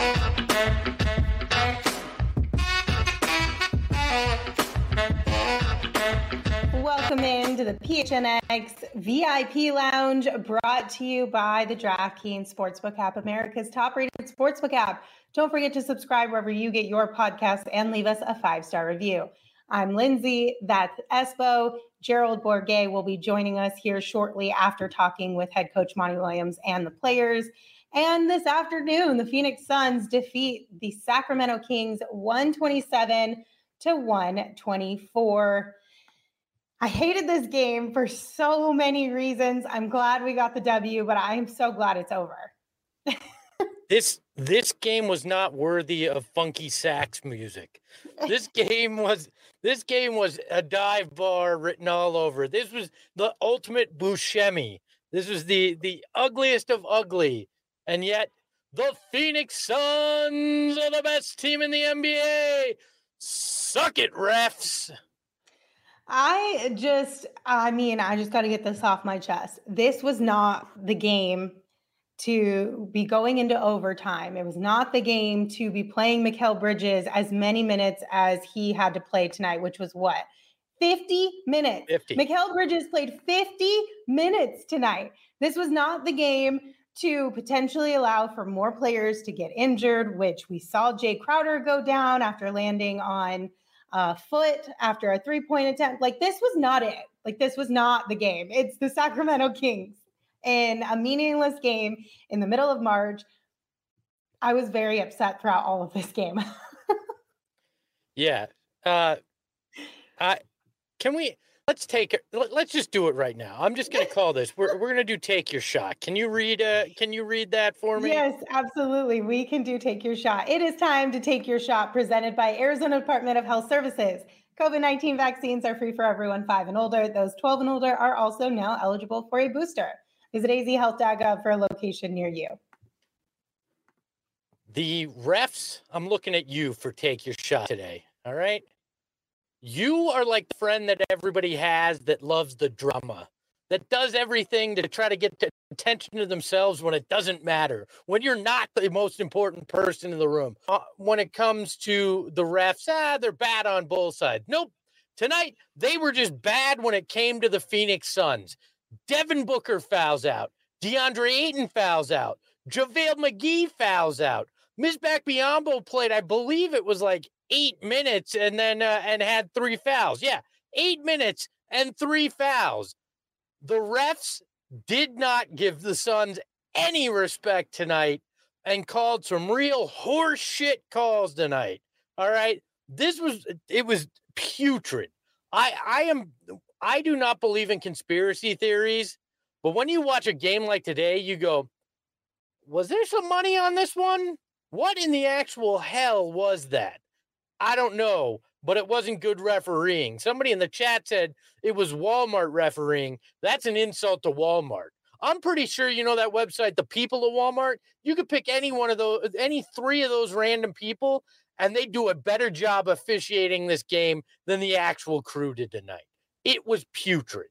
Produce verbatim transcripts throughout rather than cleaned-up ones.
Welcome into the P H N X V I P Lounge, brought to you by the DraftKings Sportsbook app, America's top-rated sportsbook app. Don't forget to subscribe wherever you get your podcasts and leave us a five-star review. I'm Lindsay, that's Espo. Gerald Bourguet will be joining us here shortly after talking with head coach Monty Williams and the players. And this afternoon, the Phoenix Suns defeat the Sacramento Kings one twenty-seven to one twenty-four. I hated this game for so many reasons. I'm glad we got the W, but I'm so glad it's over. This this game was not worthy of funky sax music. This game was this game was a dive bar written all over. This was the ultimate Buscemi. This was the the ugliest of ugly, and yet the Phoenix Suns are the best team in the N B A. Suck it, refs. I just, I mean, I just got to get this off my chest. This was not the game to be going into overtime. It was not the game to be playing Mikal Bridges as many minutes as he had to play tonight, which was what? fifty minutes. fifty. Mikal Bridges played fifty minutes tonight. This was not the game to potentially allow for more players to get injured, which we saw Jay Crowder go down after landing on Uh, foot after a three-point attempt. Like, this was not it. Like, this was not the game. It's the Sacramento Kings in a meaningless game in the middle of March. I was very upset throughout all of this game. yeah. Uh, I can we let's take it. Let's just do it right now. I'm just going to call this. We're we're going to do take your shot. Can you read? Uh, can you read that for me? Yes, absolutely. We can do take your shot. It is time to take your shot, presented by Arizona Department of Health Services. COVID nineteen vaccines are free for everyone five and older. Those twelve and older are also now eligible for a booster. Visit a z health dot gov for a location near you. The refs, I'm looking at you for take your shot today. All right. You are like the friend that everybody has that loves the drama, that does everything to try to get to attention to themselves when it doesn't matter, when you're not the most important person in the room. Uh, when it comes to the refs, ah, they're bad on both sides. Nope. Tonight, they were just bad when it came to the Phoenix Suns. Devin Booker fouls out. DeAndre Ayton fouls out. JaVale McGee fouls out. Misbah Biyombo played, I believe it was like eight minutes and then uh, and had three fouls. Yeah, eight minutes and three fouls. The refs did not give the Suns any respect tonight and called some real horse shit calls tonight. All right. This was, it was putrid. I, I am, I do not believe in conspiracy theories, but when you watch a game like today, you go, was there some money on this one? What in the actual hell was that? I don't know, but it wasn't good refereeing. Somebody in the chat said it was Walmart refereeing. That's an insult to Walmart. I'm pretty sure you know that website, The People of Walmart. You could pick any one of those, any three of those random people, and they do a better job officiating this game than the actual crew did tonight. It was putrid.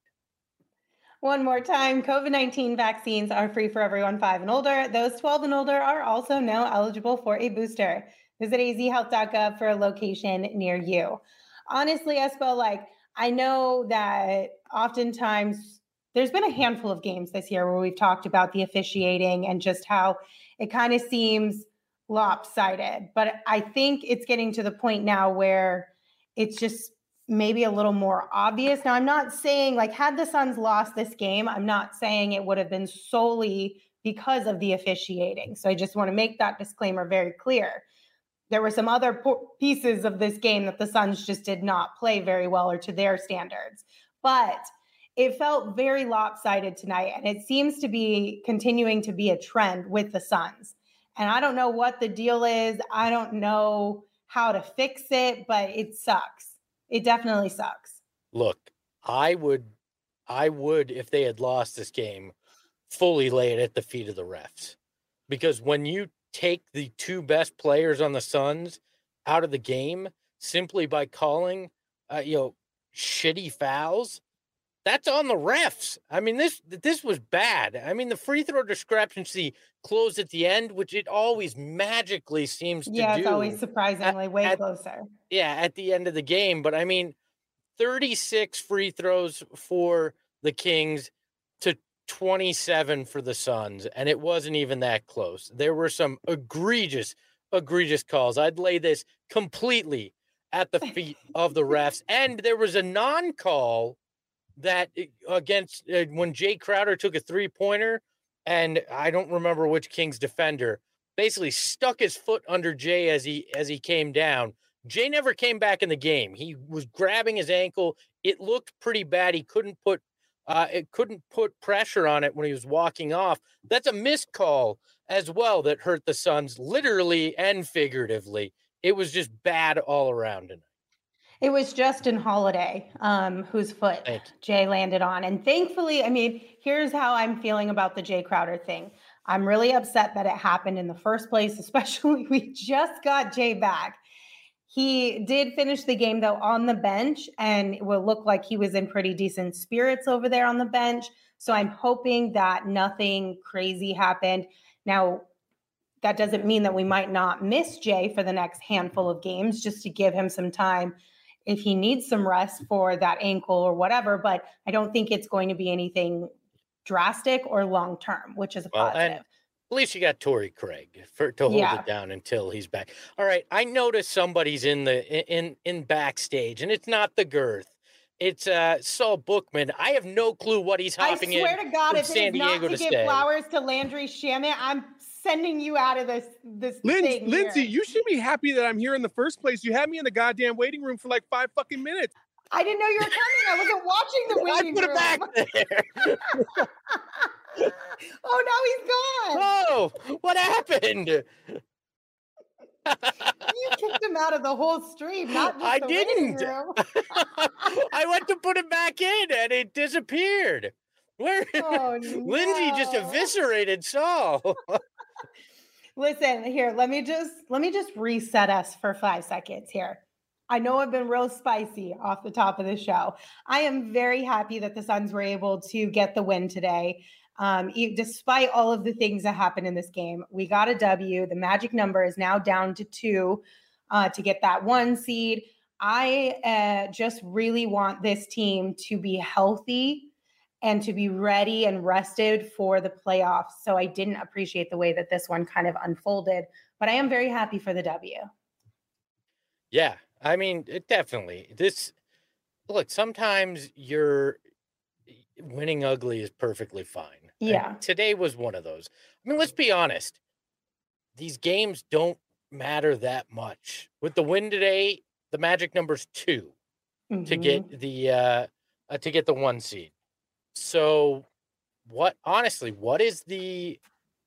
One more time, COVID nineteen vaccines are free for everyone five and older. Those twelve and older are also now eligible for a booster. Visit a z health dot gov for a location near you. Honestly, Espo, like, I know that oftentimes there's been a handful of games this year where we've talked about the officiating and just how it kind of seems lopsided. But I think it's getting to the point now where it's just maybe a little more obvious. Now, I'm not saying, like, had the Suns lost this game, I'm not saying it would have been solely because of the officiating. So I just want to make that disclaimer very clear. There were some other po- pieces of this game that the Suns just did not play very well or to their standards. But it felt very lopsided tonight, and it seems to be continuing to be a trend with the Suns. And I don't know what the deal is. I don't know how to fix it, but it sucks. It definitely sucks. Look, I would, I would, if they had lost this game, fully lay it at the feet of the refs. Because when you take the two best players on the Suns out of the game simply by calling, uh, you know, shitty fouls, that's on the refs. I mean, this this was bad. I mean, the free throw discrepancy closed at the end, which it always magically seems to Yeah, it's always do at, surprisingly way at closer. yeah, at the end of the game. But I mean, thirty-six free throws for the Kings to twenty-seven for the Suns, and it wasn't even that close. There were some egregious, egregious calls. I'd lay this completely at the feet of the refs. And there was a non-call that against uh, when Jay Crowder took a three-pointer, and I don't remember which Kings defender basically stuck his foot under Jay as he as he came down. Jay never came back in the game. He was grabbing his ankle. It looked pretty bad. He couldn't put uh, it couldn't put pressure on it when he was walking off. That's a missed call as well that hurt the Suns literally and figuratively. It was just bad all around tonight. It was Justin Holiday, um, whose foot Jay landed on. And thankfully, I mean, here's how I'm feeling about the Jay Crowder thing. I'm really upset that it happened in the first place, especially we just got Jay back. He did finish the game, though, on the bench, and it will look like he was in pretty decent spirits over there on the bench. So I'm hoping that nothing crazy happened. Now, that doesn't mean that we might not miss Jay for the next handful of games, just to give him some time if he needs some rest for that ankle or whatever. But I don't think it's going to be anything drastic or long-term, which is a well, positive. And at least you got Torrey Craig for to hold yeah. it down until he's back. All right. I noticed somebody's in the in in backstage, and it's not the girth. It's uh, Saul Bookman. I have no clue what he's hopping in. I swear to God, if San it is not Diego to, to give stay. flowers to Landry Shamet, I'm sending you out of this this Lin- thing Lindsay, here. you should be happy that I'm here in the first place. You had me in the goddamn waiting room for like five fucking minutes. I didn't know you were coming. I wasn't watching the waiting room. I put it back there. Oh, now he's gone. Whoa, what happened? You kicked him out of the whole stream, not just I the didn't. waiting room. I went to put it back in, and it disappeared. Where? Oh, Lindsay just no. eviscerated Saul. Listen, here, let me just let me just reset us for five seconds here. I know I've been real spicy off the top of the show. I am very happy that the Suns were able to get the win today. Um, e- despite all of the things that happened in this game, we got a W. The magic number is now down to two uh, to get that one seed. I uh, just really want this team to be healthy and to be ready and rested for the playoffs. So I didn't appreciate the way that this one kind of unfolded, but I am very happy for the W. Yeah, I mean, it definitely. This look, sometimes you're winning ugly is perfectly fine. Yeah. And today was one of those. I mean, let's be honest. These games don't matter that much. With the win today, the magic number's two mm-hmm. to get the uh, uh to get the one seed. So what honestly, what is the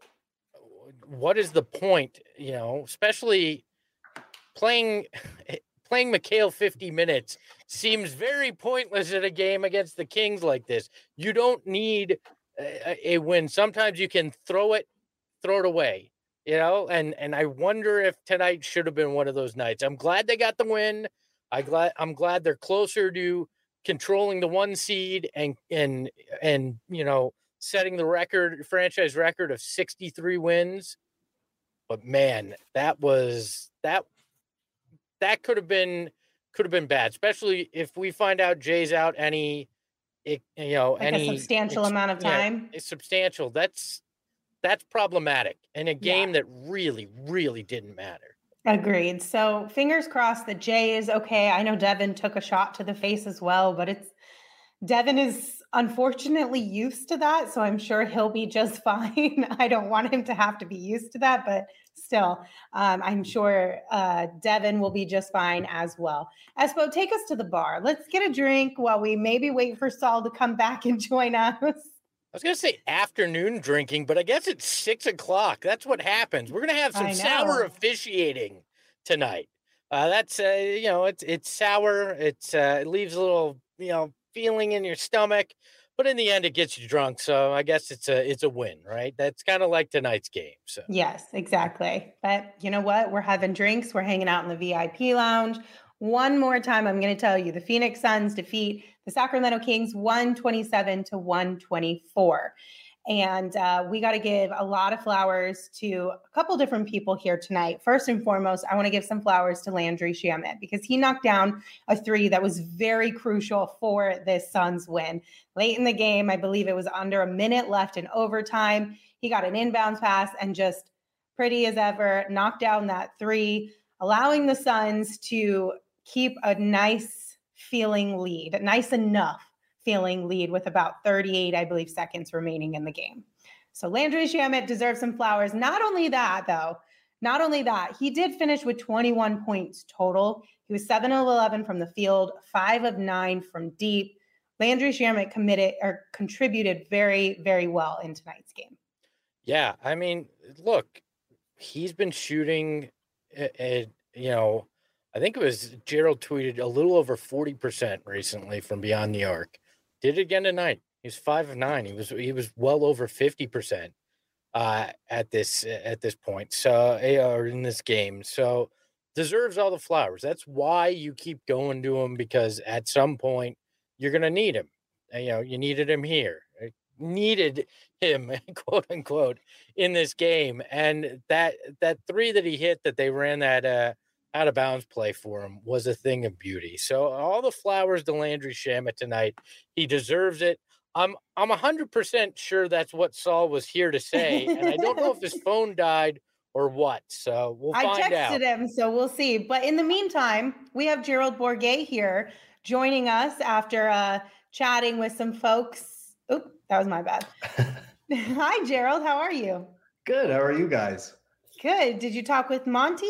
what is the point, you know, especially playing playing Mikal fifty minutes seems very pointless in a game against the Kings like this. You don't need a, a win. Sometimes you can throw it, throw it away, you know, and, and I wonder if tonight should have been one of those nights. I'm glad they got the win. I glad I'm glad they're closer to controlling the one seed and, and, and, you know, setting the record, franchise record of sixty-three wins. But man, that was that, that could have been, could have been bad, especially if we find out Jay's out any, it, you know, like any a substantial amount of time. Yeah, it's substantial. That's, that's problematic in a game yeah. that really, really didn't matter. Agreed. So fingers crossed that Jay is okay. I know Devin took a shot to the face as well, but it's Devin is unfortunately used to that. So I'm sure he'll be just fine. I don't want him to have to be used to that, but still, um, I'm sure uh, Devin will be just fine as well. Espo, take us to the bar. Let's get a drink while we maybe wait for Saul to come back and join us. I was going to say afternoon drinking, but I guess it's six o'clock. That's what happens. We're going to have some sour officiating tonight. Uh, that's, uh, you know, it's, it's sour. It's, uh, it leaves a little, you know, feeling in your stomach, but in the end it gets you drunk. So I guess it's a, it's a win, right? That's kind of like tonight's game. So yes, exactly. But you know what? We're having drinks. We're hanging out in the V I P lounge. One more time, I'm going to tell you, the Phoenix Suns defeat the Sacramento Kings one twenty-seven to one twenty-four. And uh, we got to give a lot of flowers to a couple different people here tonight. First and foremost, I want to give some flowers to Landry Shamet because he knocked down a three that was very crucial for this Suns win. Late in the game, I believe it was under a minute left in overtime. He got an inbound pass and just pretty as ever knocked down that three, allowing the Suns to keep a nice feeling lead, a nice enough feeling lead with about thirty-eight, I believe, seconds remaining in the game. So Landry Shamet deserves some flowers. Not only that, though, not only that, he did finish with twenty-one points total. He was seven of eleven from the field, five of nine from deep. Landry Shamet committed or contributed very, very well in tonight's game. Yeah, I mean, look, he's been shooting, uh, you know, I think it was Gerald tweeted a little over forty percent recently from beyond the arc. Did it again tonight. He was five of nine. He was he was well over fifty percent uh, at this at this point. So or in this game. So deserves all the flowers. That's why you keep going to him, because at some point you're gonna need him. You know, you needed him here. Needed him, quote unquote, in this game. And that that three that he hit that they ran that uh out of bounds play for him was a thing of beauty. So all the flowers to Landry Shamet tonight. He deserves it. I'm I'm one hundred percent sure that's what Saul was here to say, and I don't know if his phone died or what. So we'll find out. I texted him, so we'll see. But in the meantime, we have Gerald Bourguet here joining us after uh, chatting with some folks. Oop, that was my bad. Hi, Gerald. How are you? Good. How are you guys? Good. Did you talk with Monty?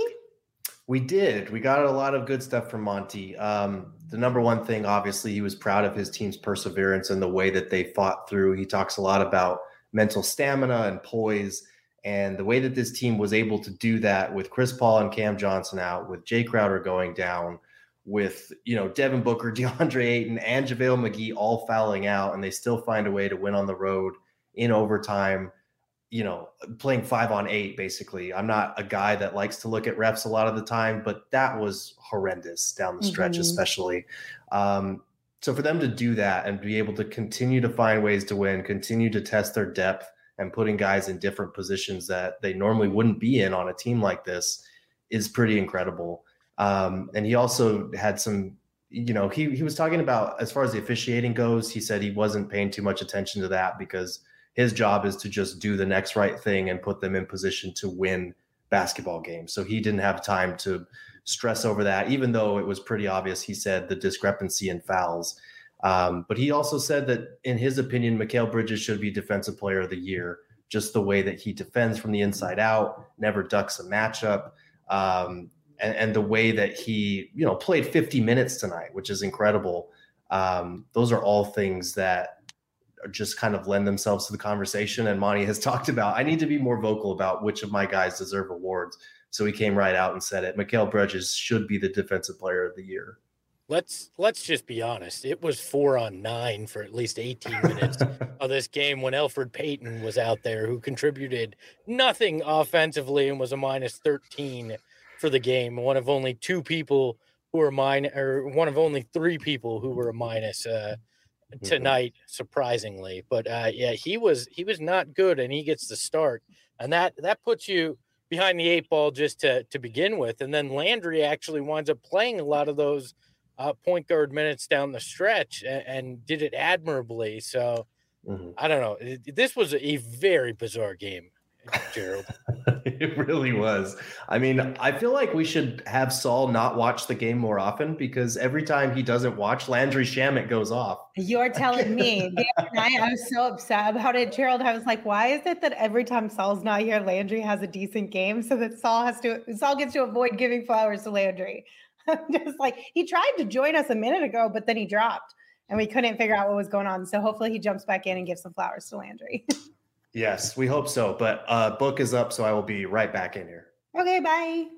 We did. We got a lot of good stuff from Monty. Um, the number one thing, obviously, he was proud of his team's perseverance and the way that they fought through. He talks a lot about mental stamina and poise, and the way that this team was able to do that with Chris Paul and Cam Johnson out, with Jay Crowder going down, with, you know, Devin Booker, DeAndre Ayton, and JaVale McGee all fouling out, and they still find a way to win on the road in overtime. You know, playing five on eight, basically. I'm not a guy that likes to look at refs a lot of the time, but that was horrendous down the stretch, mm-hmm. especially. Um, so for them to do that and be able to continue to find ways to win, continue to test their depth and putting guys in different positions that they normally wouldn't be in on a team like this is pretty incredible. Um, and he also had some, you know, he, he was talking about, as far as the officiating goes, he said he wasn't paying too much attention to that because his job is to just do the next right thing and put them in position to win basketball games. So he didn't have time to stress over that, even though it was pretty obvious, he said, the discrepancy in fouls. Um, but he also said that, in his opinion, Mikal Bridges should be Defensive Player of the Year, just the way that he defends from the inside out, never ducks a matchup, um, and, and the way that he, you know, played fifty minutes tonight, which is incredible. Um, those are all things that just kind of lend themselves to the conversation. And Monty has talked about, I need to be more vocal about which of my guys deserve awards. So he came right out and said it. Mikal Bridges should be the Defensive Player of the Year. Let's let's just be honest. It was four on nine for at least eighteen minutes of this game when Elfrid Payton was out there, who contributed nothing offensively and was a minus thirteen for the game. One of only two people who were minus, or one of only three people who were a minus uh, tonight, mm-hmm. surprisingly. But uh, yeah, he was he was not good, and he gets the start, and that that puts you behind the eight ball just to to begin with. And then Landry actually winds up playing a lot of those Uh, point guard minutes down the stretch and, and did it admirably. So mm-hmm. I don't know. It, this was a very bizarre game, Gerald. It really was. I mean, I feel like we should have Saul not watch the game more often, because every time he doesn't watch, Landry Shamet goes off. You're telling me. The other night, I was so upset about it, Gerald. I was like, why is it that every time Saul's not here, Landry has a decent game, so that Saul has to Saul gets to avoid giving flowers to Landry? Just like, he tried to join us a minute ago, but then he dropped and we couldn't figure out what was going on. So hopefully he jumps back in and gives some flowers to Landry. Yes, we hope so. But uh, book is up, so I will be right back in here. Okay, bye.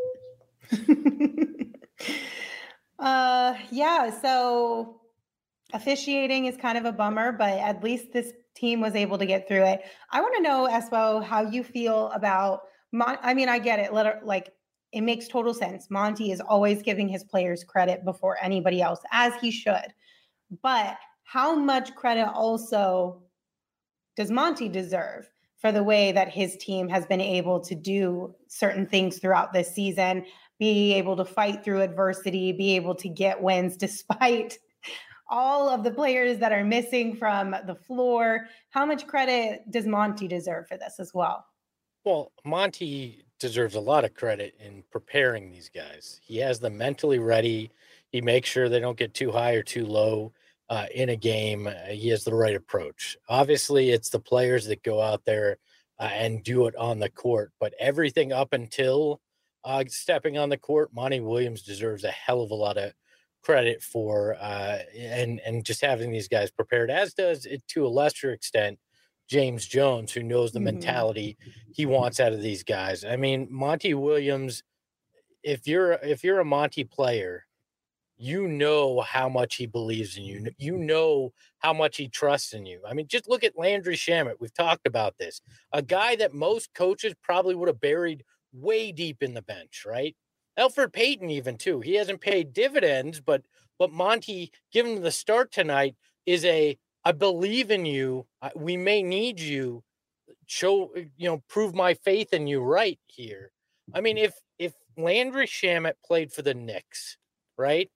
uh, yeah, so officiating is kind of a bummer, but at least this team was able to get through it. I want to know, Espo, how you feel about, Mon- I mean, I get it. Let her, like, it makes total sense. Monty is always giving his players credit before anybody else, as he should. But how much credit also does Monty deserve for the way that his team has been able to do certain things throughout this season, be able to fight through adversity, be able to get wins despite all of the players that are missing from the floor? How much credit does Monty deserve for this as well? Well, Monty deserves a lot of credit in preparing these guys. He has them mentally ready. He makes sure they don't get too high or too low uh, in a game. Uh, he has the right approach. Obviously, it's the players that go out there uh, and do it on the court, but everything up until uh, stepping on the court, Monty Williams deserves a hell of a lot of credit for uh, and and just having these guys prepared, as does it to a lesser extent James Jones, who knows the Mhm. mentality he wants out of these guys. I mean, Monty Williams, if you're if you're a Monty player, you know how much he believes in you. You know how much he trusts in you. I mean, just look at Landry Shamet. We've talked about this. A guy that most coaches probably would have buried way deep in the bench, right? Elfrid Payton even too. He hasn't paid dividends, but but Monty, given him the start tonight, is a I believe in you. I- We may need you. Show you know, prove my faith in you right here. I mean, if if Landry Shamet played for the Knicks, right,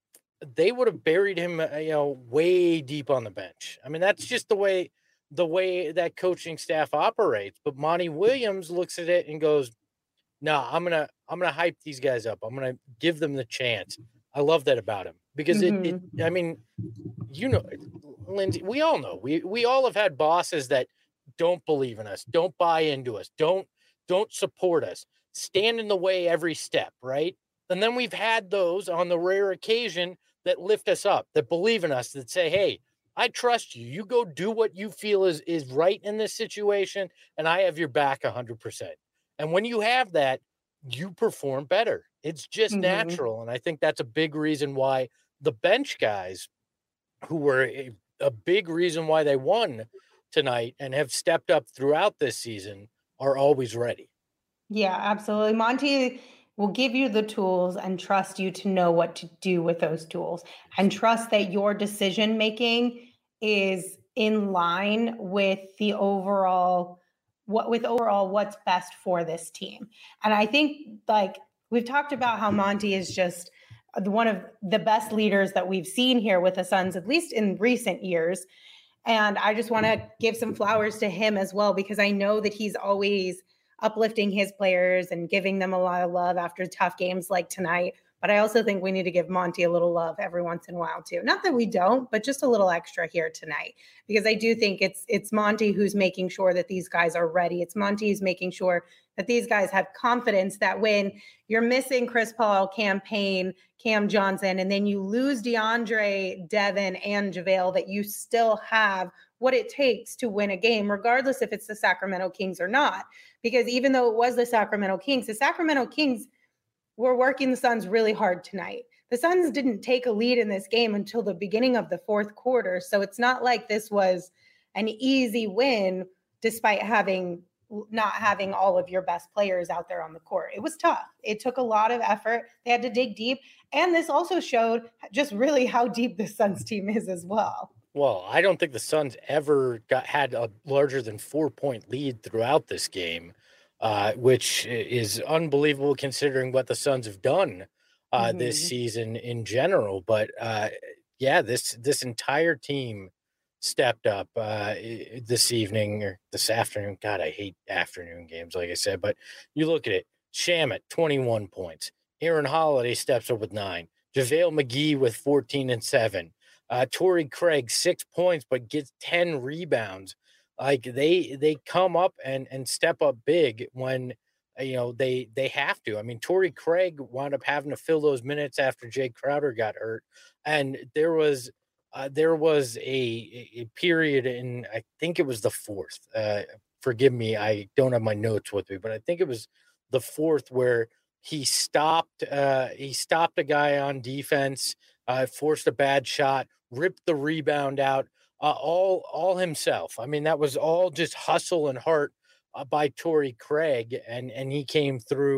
they would have buried him, uh, you know, way deep on the bench. I mean, that's just the way the way that coaching staff operates. But Monty Williams looks at it and goes, "No, I'm gonna I'm gonna hype these guys up. I'm gonna give them the chance." I love that about him because it. it Mhm. I mean, you know, Lindsay, we all know we we all have had bosses that don't believe in us, don't buy into us, don't don't support us, stand in the way every step, right? And then we've had those on the rare occasion that lift us up, that believe in us, that say, "Hey, I trust you. You go do what you feel is is right in this situation, and I have your back one hundred percent." And when you have that, you perform better. It's just Mhm. natural, and I think that's a big reason why the bench guys, who were a, a big reason why they won tonight and have stepped up throughout this season, are always ready. Yeah, absolutely. Monty will give you the tools and trust you to know what to do with those tools, and trust that your decision making is in line with the overall what with overall what's best for this team. And I think, like, we've talked about how Monty is just the- one of the best leaders that we've seen here with the Suns, at least in recent years. And I just want to give some flowers to him as well, because I know that he's always uplifting his players and giving them a lot of love after tough games like tonight. But I also think we need to give Monty a little love every once in a while too. Not that we don't, but just a little extra here tonight, because I do think it's it's Monty who's making sure that these guys are ready. It's Monty who's making sure that these guys have confidence that when you're missing Chris Paul, Cam Payne, Cam Johnson, and then you lose DeAndre, Devin, and JaVale, that you still have what it takes to win a game, regardless if it's the Sacramento Kings or not. Because even though it was the Sacramento Kings, the Sacramento Kings were working the Suns really hard tonight. The Suns didn't take a lead in this game until the beginning of the fourth quarter. So it's not like this was an easy win despite having not having all of your best players out there on the court. It was tough. It took a lot of effort. They had to dig deep. And this also showed just really how deep the Suns team is as well. Well, I don't think the Suns ever got had a larger than four point lead throughout this game, uh, which i- is unbelievable considering what the Suns have done uh, this Mhm. season in general. But uh, yeah, this this entire team stepped up uh, i- this evening or this afternoon. God, I hate afternoon games, like I said. But you look at it: Shamet, twenty-one points. Aaron Holiday steps up with nine. JaVale McGee with fourteen and seven. Uh, Torrey Craig, six points, but gets ten rebounds. Like they they come up and and step up big when uh, you know they they have to. I mean, Torrey Craig wound up having to fill those minutes after Jay Crowder got hurt, and there was uh, there was a, a period in, I think it was the fourth. Uh, forgive me, I don't have my notes with me, but I think it was the fourth where he stopped uh, he stopped a guy on defense, uh, forced a bad shot, ripped the rebound out, uh, all all himself. I mean, that was all just hustle and heart uh, by Torrey Craig, and and he came through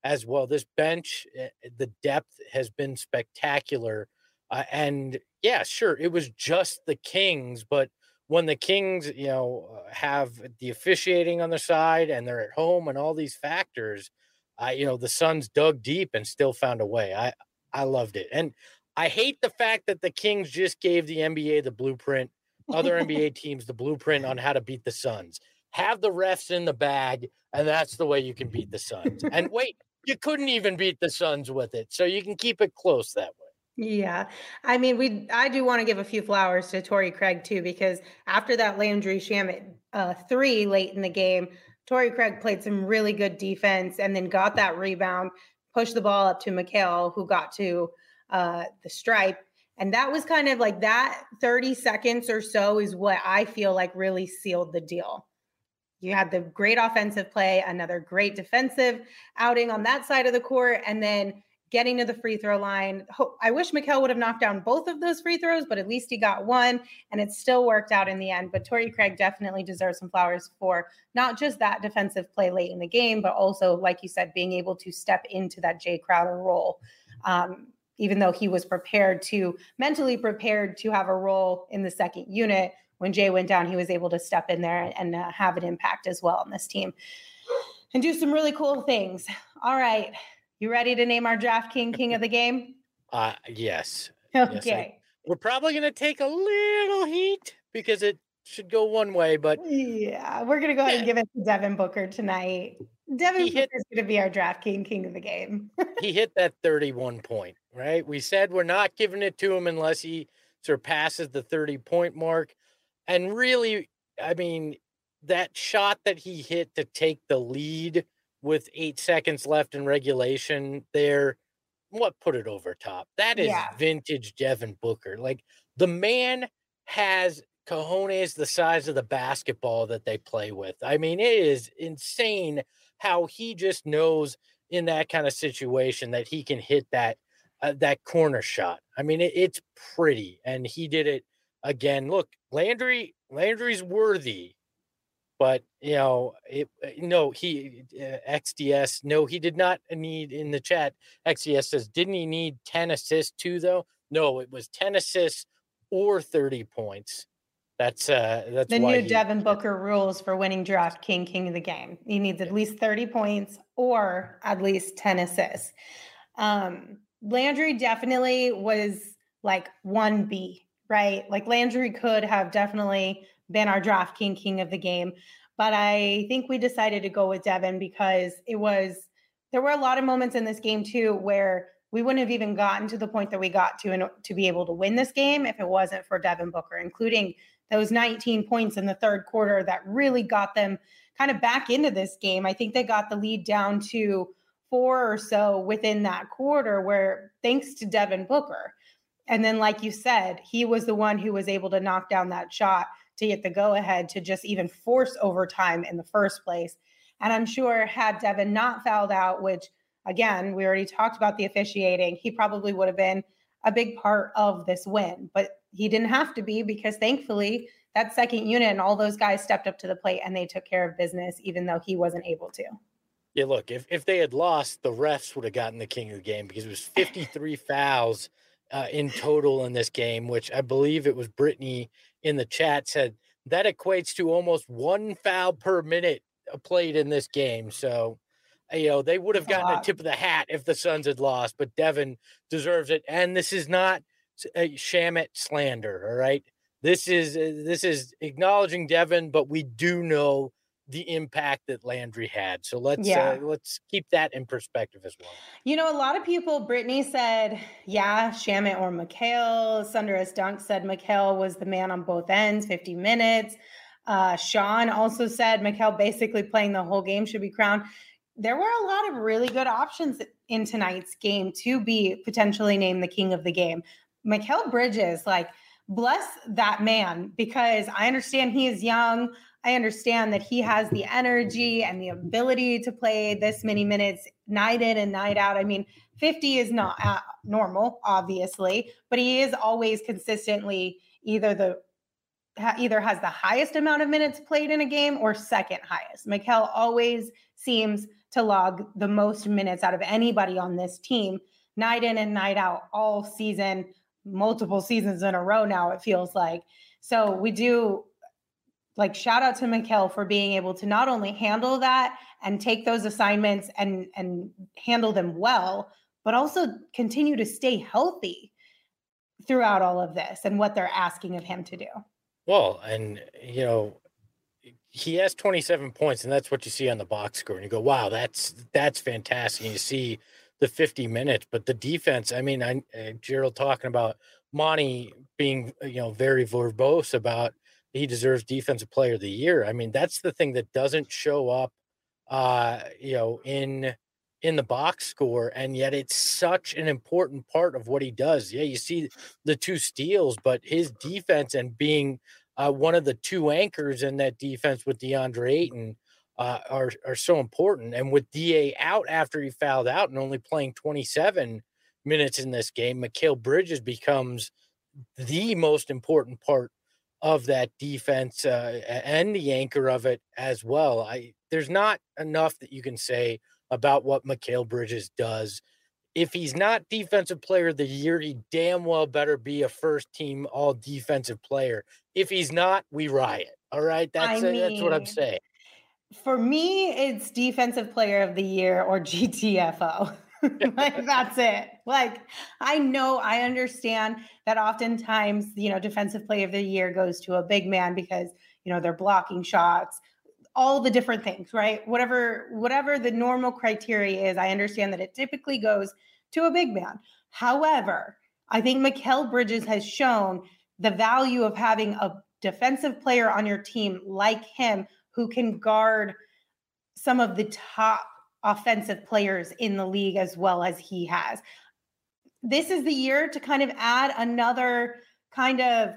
as well. This bench, uh, the depth has been spectacular. Uh, and yeah, sure, it was just the Kings, but when the Kings, you know, uh, have the officiating on the side and they're at home and all these factors, I, you know, the Suns dug deep and still found a way. I, I loved it. And I hate the fact that the Kings just gave the N B A the blueprint, other N B A teams the blueprint on how to beat the Suns. Have the refs in the bag, and that's the way you can beat the Suns. And wait, you couldn't even beat the Suns with it, so you can keep it close that way. Yeah. I mean, we I do want to give a few flowers to Torrey Craig too, because after that Landry Shamet uh, three late in the game, Torrey Craig played some really good defense and then got that rebound, pushed the ball up to Mikal, who got to uh, the stripe. And that was kind of like that thirty seconds or so is what I feel like really sealed the deal. You had the great offensive play, another great defensive outing on that side of the court, and then getting to the free throw line. I wish Mikal would have knocked down both of those free throws, but at least he got one, and it still worked out in the end. But Torrey Craig definitely deserves some flowers for not just that defensive play late in the game, but also, like you said, being able to step into that Jay Crowder role. Um, even though he was prepared to, mentally prepared to have a role in the second unit, when Jay went down, he was able to step in there and uh, have an impact as well on this team and do some really cool things. All right. You ready to name our draft king, king of the game? Uh, yes. Okay. Yes, I, we're probably going to take a little heat because it should go one way, but yeah, we're going to go ahead and give it to Devin Booker tonight. Devin Booker is going to be our draft king, king of the game. He hit that thirty-one point, right? We said we're not giving it to him unless he surpasses the thirty point mark. And really, I mean, that shot that he hit to take the lead with eight seconds left in regulation there, what put it over top? That is yeah. vintage Devin Booker. Like, the man has cojones the size of the basketball that they play with. I mean, it is insane how he just knows in that kind of situation that he can hit that uh, that corner shot. I mean, it, it's pretty, and he did it again. Look, Landry, Landry's worthy. But, you know, it, no, he, uh, X D S, no, he did not need, in the chat, X D S says, didn't he need ten assists too, though? No, it was ten assists or thirty points. That's uh, that's the why new he, Devin Booker rules for winning draft king, king of the game. He needs at least thirty points or at least ten assists. Um, Landry definitely was like one B, right? Like Landry could have definitely been our draft king, king of the game. But I think we decided to go with Devin because it was, there were a lot of moments in this game too, where we wouldn't have even gotten to the point that we got to in, to be able to win this game if it wasn't for Devin Booker, including those nineteen points in the third quarter that really got them kind of back into this game. I think they got the lead down to four or so within that quarter, where thanks to Devin Booker. And then, like you said, he was the one who was able to knock down that shot to get the go-ahead to just even force overtime in the first place. And I'm sure had Devin not fouled out, which, again, we already talked about the officiating, he probably would have been a big part of this win. But he didn't have to be, because thankfully that second unit and all those guys stepped up to the plate and they took care of business, even though he wasn't able to. Yeah, look, if, if they had lost, the refs would have gotten the king of the game, because it was fifty-three fouls uh, in total in this game, which I believe it was Brittany in the chat said that equates to almost one foul per minute played in this game. So, you know, they would have gotten a tip of the hat if the Suns had lost, but Devin deserves it. And this is not a Shamet slander. All right. This is, uh, this is acknowledging Devin, but we do know the impact that Landry had. So let's, yeah. uh, let's keep that in perspective as well. You know, a lot of people, Brittany said, yeah, Shamet or Mikal. Sundaras Dunk said Mikal was the man on both ends, fifty minutes. Uh, Sean also said Mikal basically playing the whole game should be crowned. There were a lot of really good options in tonight's game to be potentially named the king of the game. Mikal Bridges, like, bless that man, because I understand he is young. I understand that he has the energy and the ability to play this many minutes night in and night out. I mean, fifty is not uh, normal, obviously, but he is always consistently either the ha, either has the highest amount of minutes played in a game or second highest. Mikal always seems to log the most minutes out of anybody on this team, night in and night out, all season, multiple seasons in a row now, it feels like. So we do, like, shout out to Mikal for being able to not only handle that and take those assignments and, and handle them well, but also continue to stay healthy throughout all of this and what they're asking of him to do. Well, and, you know, he has twenty-seven points, and that's what you see on the box score. And you go, wow, that's that's fantastic. And you see the fifty minutes, but the defense, I mean, I, uh, Gerald talking about Monty being, you know, very verbose about he deserves Defensive Player of the Year. I mean, that's the thing that doesn't show up, uh, you know, in in the box score, and yet it's such an important part of what he does. Yeah, you see the two steals, but his defense and being uh, one of the two anchors in that defense with DeAndre Ayton uh, are are so important. And with D A out after he fouled out and only playing twenty-seven minutes in this game, Mikal Bridges becomes the most important part of that defense uh, and the anchor of it as well. I there's not enough that you can say about what Mikal Bridges does. If he's not Defensive Player of the Year, he damn well better be a first team all defensive player. If he's not, we riot. All right. That's, I uh, that's what I'm mean, saying. For me, it's Defensive Player of the Year or G T F O. Like, that's it. Like, I know, I understand that oftentimes, you know, Defensive Player of the Year goes to a big man because, you know, they're blocking shots, all the different things, right? Whatever, whatever the normal criteria is, I understand that it typically goes to a big man. However, I think Mikal Bridges has shown the value of having a defensive player on your team like him who can guard some of the top offensive players in the league as well as he has. This is the year to kind of add another kind of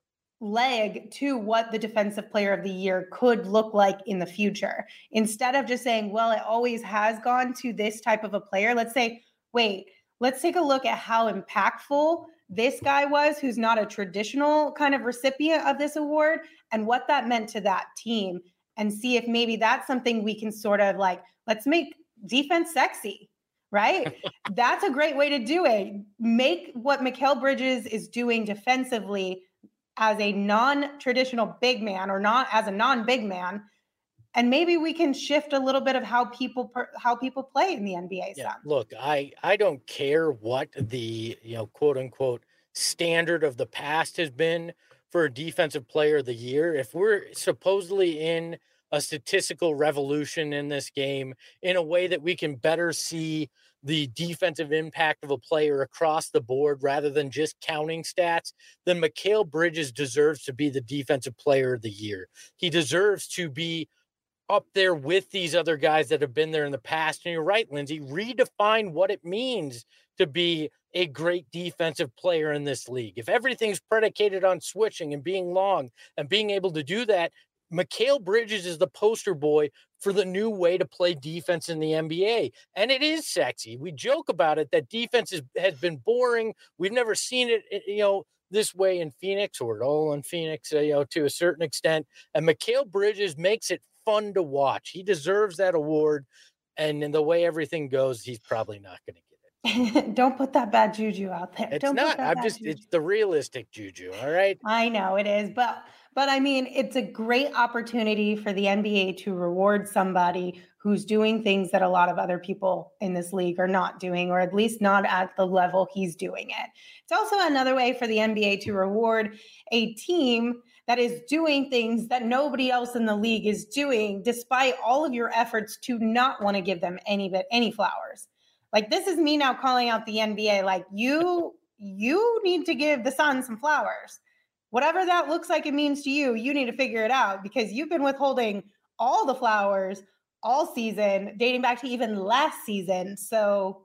leg to what the Defensive Player of the Year could look like in the future. Instead of just saying, well, it always has gone to this type of a player, let's say, wait, let's take a look at how impactful this guy was, who's not a traditional kind of recipient of this award, and what that meant to that team, and see if maybe that's something we can sort of like, let's make defense sexy, right? That's a great way to do it. Make what Mikal Bridges is doing defensively as a non-traditional big man, or not as a non-big man, and maybe we can shift a little bit of how people per, how people play in the N B A. Yeah, Some. look, I I don't care what the, you know, quote unquote standard of the past has been for a Defensive Player of the Year. If we're supposedly in a statistical revolution in this game in a way that we can better see the defensive impact of a player across the board rather than just counting stats, then Mikal Bridges deserves to be the Defensive Player of the Year. He deserves to be up there with these other guys that have been there in the past. And you're right, Lindsay, redefine what it means to be a great defensive player in this league. If everything's predicated on switching and being long and being able to do that, Mikal Bridges is the poster boy for the new way to play defense in the N B A. And it is sexy. We joke about it, that defense is, has been boring. We've never seen it, you know, this way in Phoenix, or at all in Phoenix, uh, you know, to a certain extent. And Mikal Bridges makes it fun to watch. He deserves that award. And in the way everything goes, he's probably not going to get it. Don't put that bad juju out there. It's Don't not. Put that I'm bad just, juju. it's the realistic juju. All right. I know it is, but but I mean, it's a great opportunity for the N B A to reward somebody who's doing things that a lot of other people in this league are not doing, or at least not at the level he's doing it. It's also another way for the N B A to reward a team that is doing things that nobody else in the league is doing, despite all of your efforts to not want to give them any bit any flowers. Like, this is me now calling out the N B A. Like, you, you need to give the Suns some flowers. Whatever that looks like it means to you, you need to figure it out, because you've been withholding all the flowers all season, dating back to even last season. So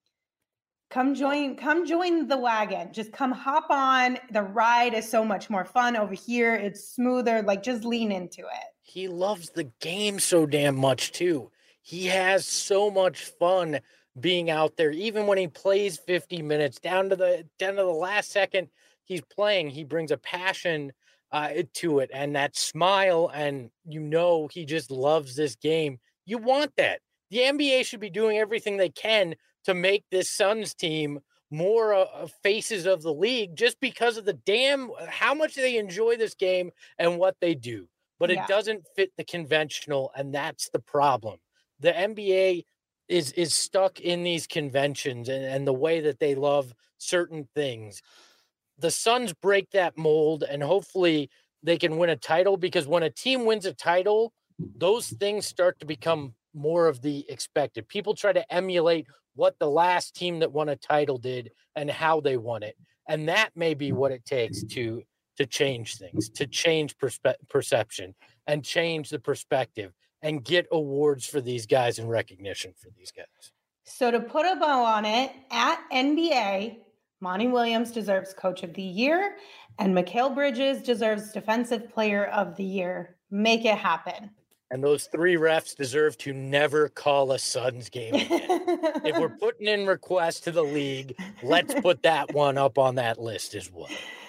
come join, come join the wagon. Just come hop on. The ride is so much more fun over here. It's smoother. Like, just lean into it. He loves the game so damn much too. He has so much fun being out there, even when he plays fifty minutes down to the down to the last second he's playing. He brings a passion uh, to it, and that smile, and you know he just loves this game. You want that. the N B A should be doing everything they can to make this Suns team more uh, faces of the league, just because of the damn how much they enjoy this game and what they do. But Yeah. it doesn't fit the conventional, and that's the problem. The N B A is is stuck in these conventions and, and the way that they love certain things. The Suns break that mold, and hopefully they can win a title, because when a team wins a title, those things start to become more of the expected. People try to emulate what the last team that won a title did and how they won it. And that may be what it takes to to change things, to change perspe- perception and change the perspective and get awards for these guys and recognition for these guys. So to put a bow on it, at N B A, Monty Williams deserves Coach of the Year, and Mikal Bridges deserves Defensive Player of the Year. Make it happen. And those three refs deserve to never call a Suns game again. If we're putting in requests to the league, let's put that one up on that list as well.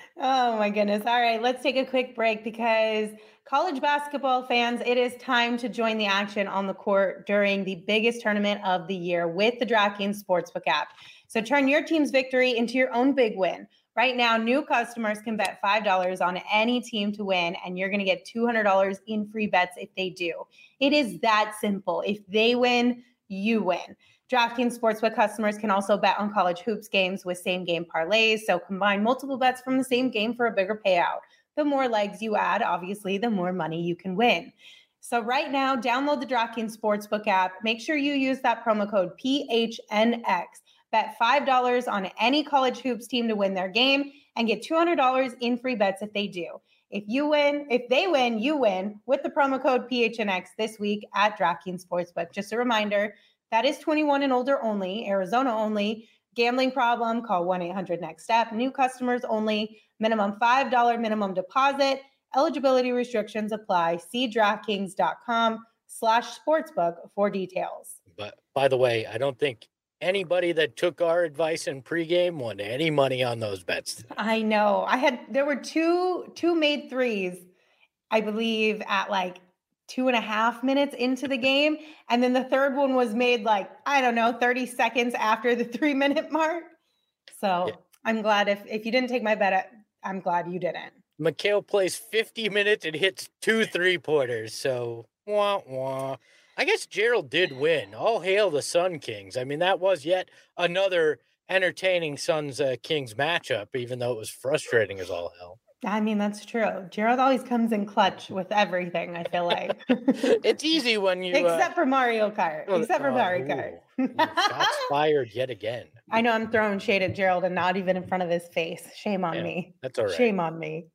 Oh my goodness. All right, let's take a quick break, because college basketball fans, it is time to join the action on the court during the biggest tournament of the year with the DraftKings Sportsbook app. So turn your team's victory into your own big win. Right now, new customers can bet five dollars on any team to win, and you're going to get two hundred dollars in free bets if they do. It is that simple. If they win, you win. DraftKings Sportsbook customers can also bet on college hoops games with same-game parlays, so combine multiple bets from the same game for a bigger payout. The more legs you add, obviously, the more money you can win. So right now, download the DraftKings Sportsbook app. Make sure you use that promo code P H N X. Bet five dollars on any college hoops team to win their game and get two hundred dollars in free bets if they do. If you win, if they win, you win with the promo code P H N X this week at DraftKings Sportsbook. Just a reminder, that is twenty-one and older only, Arizona only. Gambling problem, call one eight hundred next step. New customers only. Minimum five dollars minimum deposit. Eligibility restrictions apply. See DraftKings.com slash sportsbook for details. But by the way, I don't think anybody that took our advice in pregame won any money on those bets today. I know. I had, there were two, two made threes, I believe, at like two and a half minutes into the game. And then the third one was made like, I don't know, thirty seconds after the three minute mark. So yeah. I'm glad if, if you didn't take my bet, I'm glad you didn't. Mikal plays fifty minutes and hits two three pointers. So wah, wah. I guess Gerald did win. All hail the Sun Kings. I mean, that was yet another entertaining Suns uh, Kings matchup, even though it was frustrating as all hell. I mean, that's true. Gerald always comes in clutch with everything, I feel like. It's easy when you... Except uh, for Mario Kart. Except for uh, Mario ooh, Kart. ooh, shots fired yet again. I know I'm throwing shade at Gerald and not even in front of his face. Shame on Yeah, me. That's all right. Shame on me.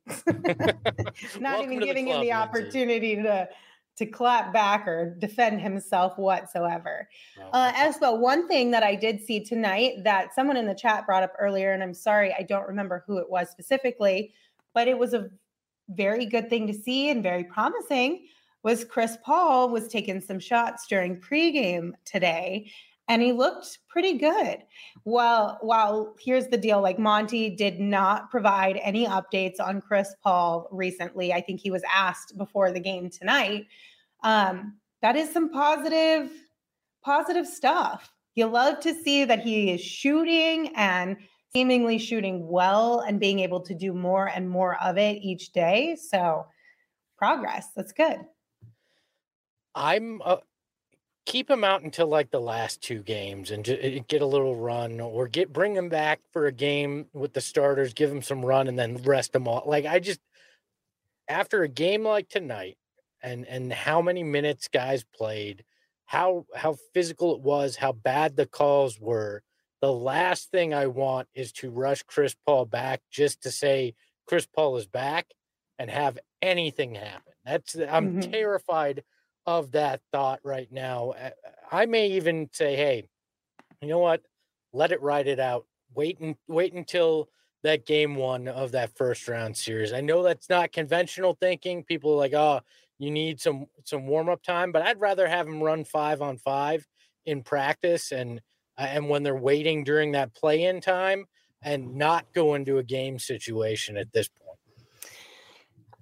Not even giving him the Lindsay. opportunity to... to clap back or defend himself whatsoever. Oh, Uh, as well, one thing that I did see tonight that someone in the chat brought up earlier, and I'm sorry, I don't remember who it was specifically, but it was a very good thing to see and very promising, was Chris Paul was taking some shots during pregame today, and he looked pretty good. Well, while here's the deal, like Monty did not provide any updates on Chris Paul recently. I think he was asked before the game tonight. Um, that is some positive, positive stuff. You love to see that he is shooting and seemingly shooting well and being able to do more and more of it each day. So progress, that's good. I'm... Uh... Keep him out until like the last two games and just get a little run, or get bring him back for a game with the starters, give him some run, and then rest them all. Like I just after a game like tonight, and and how many minutes guys played, how how physical it was, how bad the calls were. The last thing I want is to rush Chris Paul back just to say Chris Paul is back and have anything happen. That's I'm Mhm. terrified of that thought right now. I may even say, hey, you know what? Let it ride it out. Wait and wait until that game one of that first round series. I know that's not conventional thinking. People are like, oh, you need some some warm up time, but I'd rather have them run five on five in practice and uh, and when they're waiting during that play in time, and not go into a game situation at this point.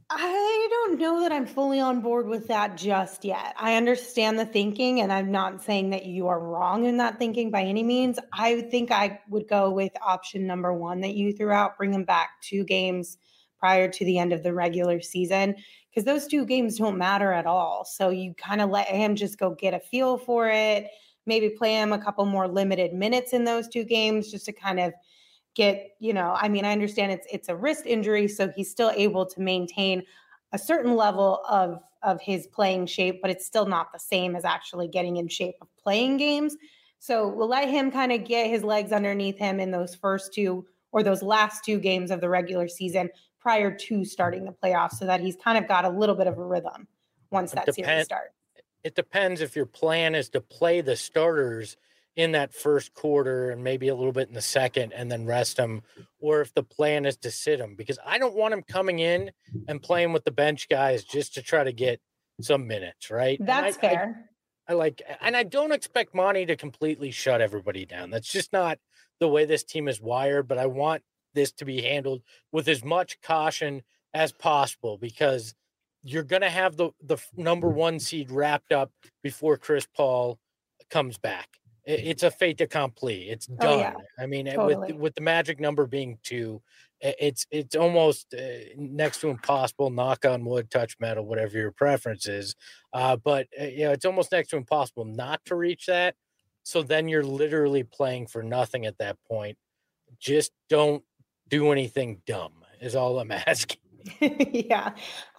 I don't know that I'm fully on board with that just yet. I understand the thinking, and I'm not saying that you are wrong in that thinking by any means. I think I would go with option number one that you threw out, bring him back two games prior to the end of the regular season, because those two games don't matter at all. So you kind of let him just go get a feel for it, maybe play him a couple more limited minutes in those two games just to kind of get, you know, I mean, I understand it's it's a wrist injury, so he's still able to maintain a certain level of of his playing shape, but it's still not the same as actually getting in shape of playing games. So we'll let him kind of get his legs underneath him in those first two or those last two games of the regular season prior to starting the playoffs so that he's kind of got a little bit of a rhythm once that Depend- series starts. It depends if your plan is to play the starters in that first quarter and maybe a little bit in the second and then rest them, or if the plan is to sit them, because I don't want him coming in and playing with the bench guys just to try to get some minutes, right? That's I, fair. I, I like, and I don't expect Monty to completely shut everybody down. That's just not the way this team is wired, but I want this to be handled with as much caution as possible because you're going to have the, the number one seed wrapped up before Chris Paul comes back. It's a fait accompli. It's done. Oh, yeah. I mean, Totally. with with the magic number being two, it's it's almost uh, next to impossible. Knock on wood, touch metal, whatever your preference is. Uh, but uh, you know, it's almost next to impossible not to reach that. So then you're literally playing for nothing at that point. Just don't do anything dumb. Is all I'm asking. Yeah,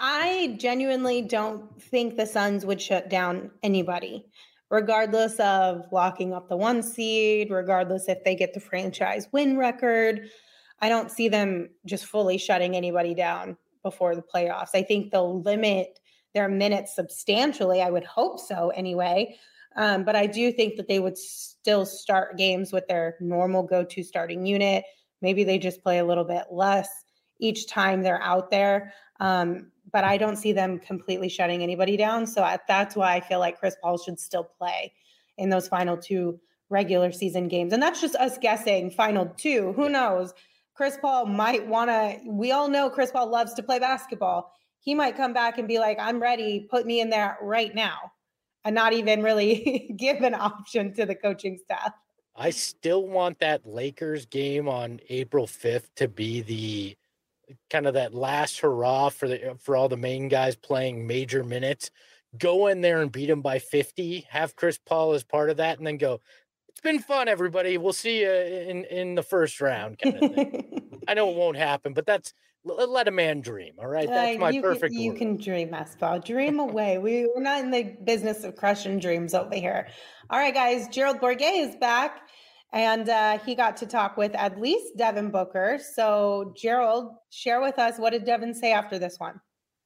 I genuinely don't think the Suns would shut down anybody, regardless of locking up the one seed, regardless if they get the franchise win record. I don't see them just fully shutting anybody down before the playoffs. I think they'll limit their minutes substantially. I would hope so anyway. Um, but I do think that they would still start games with their normal go-to starting unit. Maybe they just play a little bit less each time they're out there. Um, but I don't see them completely shutting anybody down. So I, that's why I feel like Chris Paul should still play in those final two regular season games. And that's just us guessing final two. Who knows? Chris Paul might want to, we all know Chris Paul loves to play basketball. He might come back and be like, I'm ready, put me in there right now, and not even really give an option to the coaching staff. I still want that Lakers game on April fifth to be the kind of that last hurrah for the for all the main guys playing major minutes. Go in there and beat them by fifty, have Chris Paul as part of that, and then go, it's been fun, everybody. We'll see you in, in the first round kind of thing. I know it won't happen, but that's let a man dream. All right. That's my uh, you perfect can, You word. can dream, Espo. Dream away. We, we're not in the business of crushing dreams over here. All right, guys. Gerald Bourguet is back. And uh, he got to talk with at least Devin Booker. So, Gerald, share with us, what did Devin say after this one?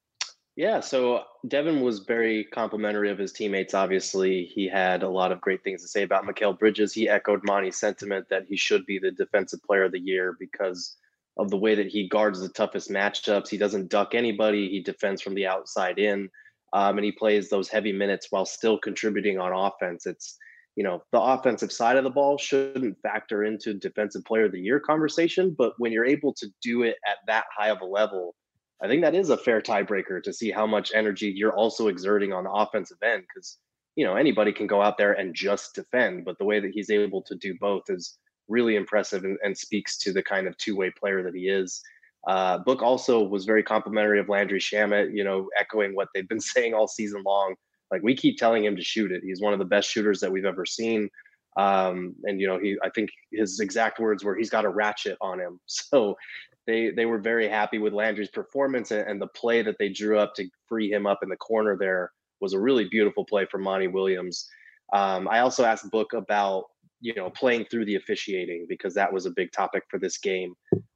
Yeah, so Devin was very complimentary of his teammates. Obviously, he had a lot of great things to say about Mikal Bridges. He echoed Monty's sentiment that he should be the defensive player of the year because of the way that he guards the toughest matchups. He doesn't duck anybody. He defends from the outside in, um, and he plays those heavy minutes while still contributing on offense. It's You know, the offensive side of the ball shouldn't factor into defensive player of the year conversation, but when you're able to do it at that high of a level, I think that is a fair tiebreaker to see how much energy you're also exerting on the offensive end. Because, you know, anybody can go out there and just defend, but the way that he's able to do both is really impressive and, and speaks to the kind of two-way player that he is. Uh, Book also was very complimentary of Landry Shamet, you know, echoing what they've been saying all season long. Like, we keep telling him to shoot it. He's one of the best shooters that we've ever seen. Um, and, you know, he, I think his exact words were, he's got a ratchet on him. So they, they were very happy with Landry's performance, and, and the play that they drew up to free him up in the corner there was a really beautiful play from Monty Williams. Um, I also asked Book about, you know, playing through the officiating, because that was a big topic for this game.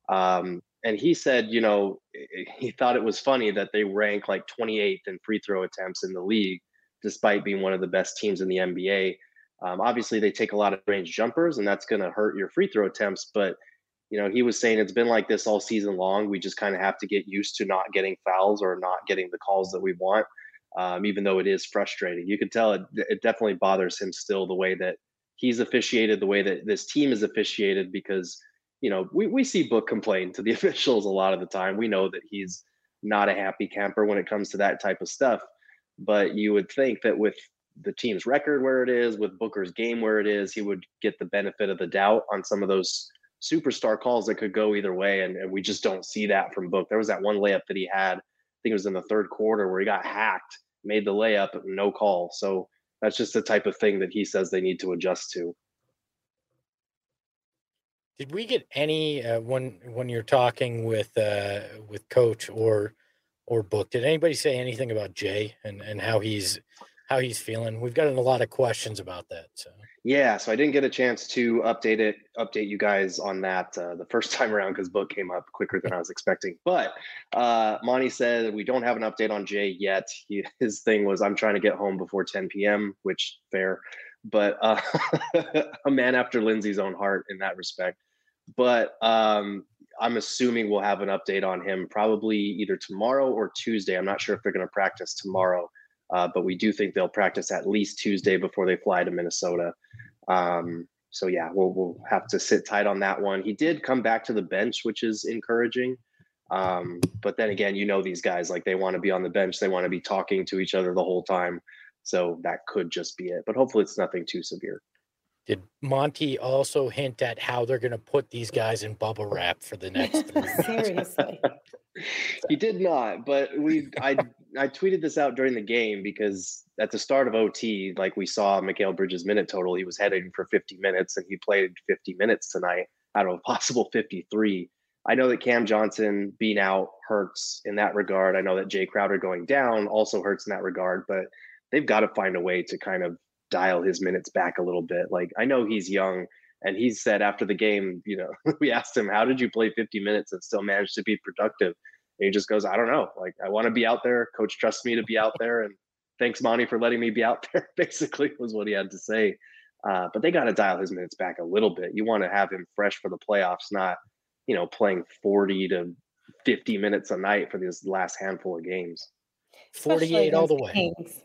Um, and he said, you know, he thought it was funny that they rank like twenty-eighth in free throw attempts in the league, despite being one of the best teams in the N B A. Um, obviously, they take a lot of range jumpers, and that's going to hurt your free throw attempts. But, you know, he was saying it's been like this all season long. We just kind of have to get used to not getting fouls or not getting the calls that we want, um, even though it is frustrating. You can tell it, it definitely bothers him still, the way that he's officiated, the way that this team is officiated, because, you know, we, we see Book complain to the officials a lot of the time. We know that he's not a happy camper when it comes to that type of stuff. But you would think that with the team's record where it is, with Booker's game where it is, he would get the benefit of the doubt on some of those superstar calls that could go either way. And, and we just don't see that from Book. There was that one layup that he had, I think it was in the third quarter, where he got hacked, made the layup, no call. So that's just the type of thing that he says they need to adjust to. Did we get any uh, when when you're talking with uh, with Coach or or Book? Did anybody say anything about Jay and, and how he's how he's feeling? We've gotten a lot of questions about that. So yeah, so I didn't get a chance to update it, update you guys on that uh, the first time around because Book came up quicker than I was expecting. But uh, Monty said we don't have an update on Jay yet. He, his thing was I'm trying to get home before ten p.m., which fair, but uh, a man after Lindsay's own heart in that respect. But um, I'm assuming we'll have an update on him probably either tomorrow or Tuesday. I'm not sure if they're going to practice tomorrow, uh, but we do think they'll practice at least Tuesday before they fly to Minnesota. Um, so, yeah, we'll, we'll have to sit tight on that one. He did come back to the bench, which is encouraging. Um, but then again, you know, these guys, like they want to be on the bench. They want to be talking to each other the whole time. So that could just be it. But hopefully it's nothing too severe. Did Monty also hint at how they're going to put these guys in bubble wrap for the next three weeks? Seriously. He did not, but we I I tweeted this out during the game because at the start of O T, like we saw Mikal Bridges' minute total, he was heading for fifty minutes and he played fifty minutes tonight out of a possible fifty-three. I know that Cam Johnson being out hurts in that regard. I know that Jay Crowder going down also hurts in that regard, but they've got to find a way to kind of dial his minutes back a little bit. Like I know he's young and he said after the game, you know, we asked him, how did you play fifty minutes and still manage to be productive? And he just goes, I don't know. Like I want to be out there. Coach trusts me to be out there. And thanks Monty for letting me be out there, basically was what he had to say. Uh, but they got to dial his minutes back a little bit. You want to have him fresh for the playoffs, not, you know, playing forty to fifty minutes a night for this last handful of games. forty-eight all the way. Kings.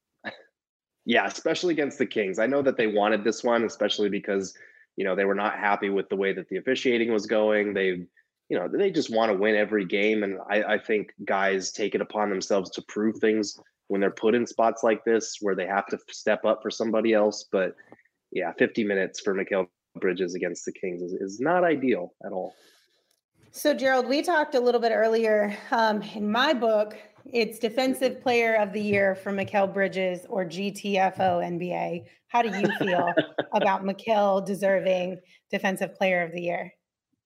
Yeah, especially against the Kings. I know that they wanted this one, especially because, you know, they were not happy with the way that the officiating was going. They, you know, they just want to win every game. And I, I think guys take it upon themselves to prove things when they're put in spots like this where they have to step up for somebody else. But yeah, fifty minutes for Mikal Bridges against the Kings is, is not ideal at all. So, Gerald, we talked a little bit earlier um, in my book. It's Defensive Player of the Year for Mikal Bridges or G T F O N B A. How do you feel about Mikal deserving Defensive Player of the Year?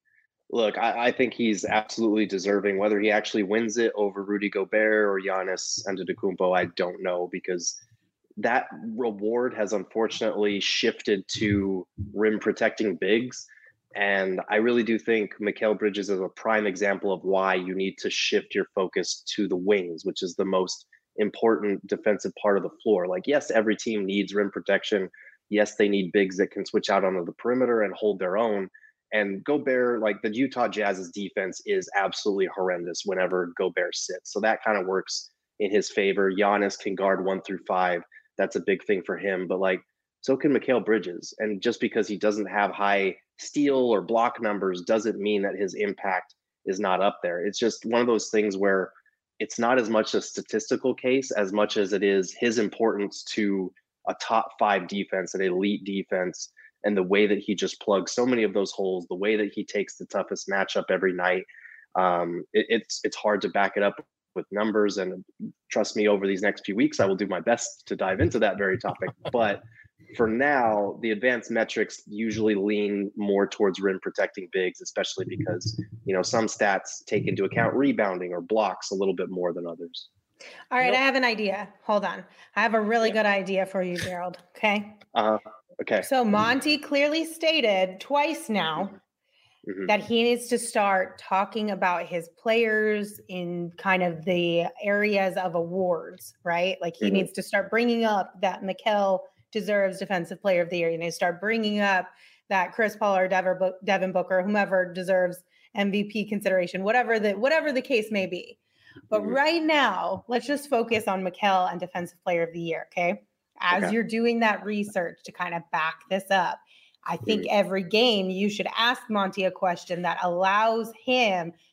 Look, I, I think he's absolutely deserving. Whether he actually wins it over Rudy Gobert or Giannis Antetokounmpo, I don't know, because that reward has unfortunately shifted to rim protecting bigs. And I really do think Mikal Bridges is a prime example of why you need to shift your focus to the wings, which is the most important defensive part of the floor. Like, yes, every team needs rim protection. Yes, they need bigs that can switch out onto the perimeter and hold their own. And Gobert, like the Utah Jazz's defense is absolutely horrendous whenever Gobert sits. So that kind of works in his favor. Giannis can guard one through five. That's a big thing for him. But like, so can Mikal Bridges. And just because he doesn't have high steal or block numbers doesn't mean that his impact is not up there. It's just one of those things where it's not as much a statistical case as much as it is his importance to a top five defense, an elite defense, and the way that he just plugs so many of those holes, the way that he takes the toughest matchup every night. Um, it, it's it's hard to back it up with numbers. And trust me, over these next few weeks, I will do my best to dive into that very topic. But for now, the advanced metrics usually lean more towards rim protecting bigs, especially because, you know, some stats take into account rebounding or blocks a little bit more than others. All right, Nope. I have an idea. Hold on. I have a really Yeah. good idea for you, Gerald. Okay. Uh, okay. So Monty clearly stated twice now Mhm. that he needs to start talking about his players in kind of the areas of awards, right? Like he Mhm. needs to start bringing up that Mikal deserves Defensive Player of the Year. You need to start bringing up that Chris Paul or Devin Book- Devin Booker, whomever deserves M V P consideration, whatever the whatever the case may be. But Mhm. right now, let's just focus on Mikal and Defensive Player of the Year, okay? As Okay. you're doing that research to kind of back this up, I think every game you should ask Monty a question that allows him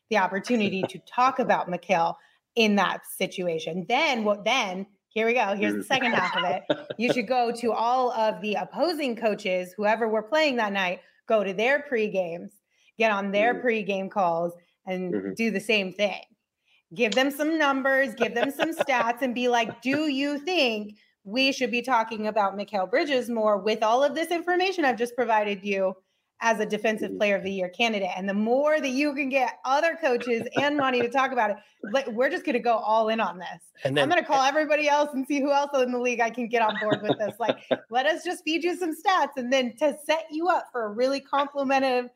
the opportunity to talk about Mikal in that situation. Then what then here we go. Here's the second half of it. You should go to all of the opposing coaches, whoever were playing that night, go to their pre-games, get on their Mhm. pre-game calls and Mhm. do the same thing. Give them some numbers, give them some stats, and be like, do you think we should be talking about Mikal Bridges more with all of this information I've just provided you as a defensive Mhm. player of the year candidate? And the more that you can get other coaches and money to talk about it, like, we're just going to go all in on this. And then I'm going to call everybody else and see who else in the league I can get on board with this. Like, let us just feed you some stats, and then to set you up for a really complimentary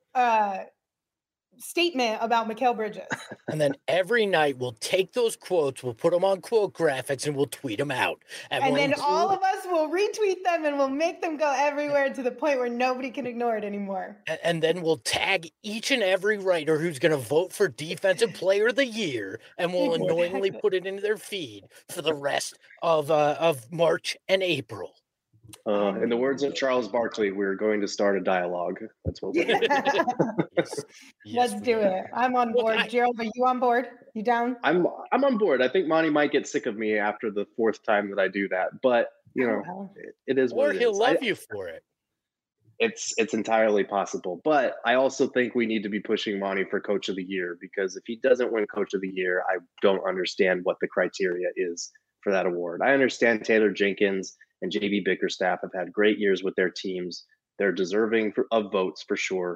uh, statement about Mikal Bridges. And then every night we'll take those quotes, we'll put them on quote graphics, and we'll tweet them out. And, we'll then include- all of us will retweet them, and we'll make them go everywhere to the point where nobody can ignore it anymore. and, and then we'll tag each and every writer who's going to vote for Defensive Player of the Year, and we'll annoyingly Exactly. put it into their feed for the rest of uh, of March and April. Uh, in the words of Charles Barkley, we're going to start a dialogue. That's what we're doing. Yes. Yes, Let's we do are. it. I'm on Look, board. I- Gerald, are you on board? You down? I'm I'm on board. I think Monty might get sick of me after the fourth time that I do that, but you know, Oh, well. it, it is Or what it he'll is. love I- you for it. it's it's entirely possible. But I also think we need to be pushing Monty for Coach of the Year, because if he doesn't win Coach of the Year, I don't understand what the criteria is for that award. I understand Taylor Jenkins and J B Bickerstaff have had great years with their teams. They're deserving for, of votes for sure.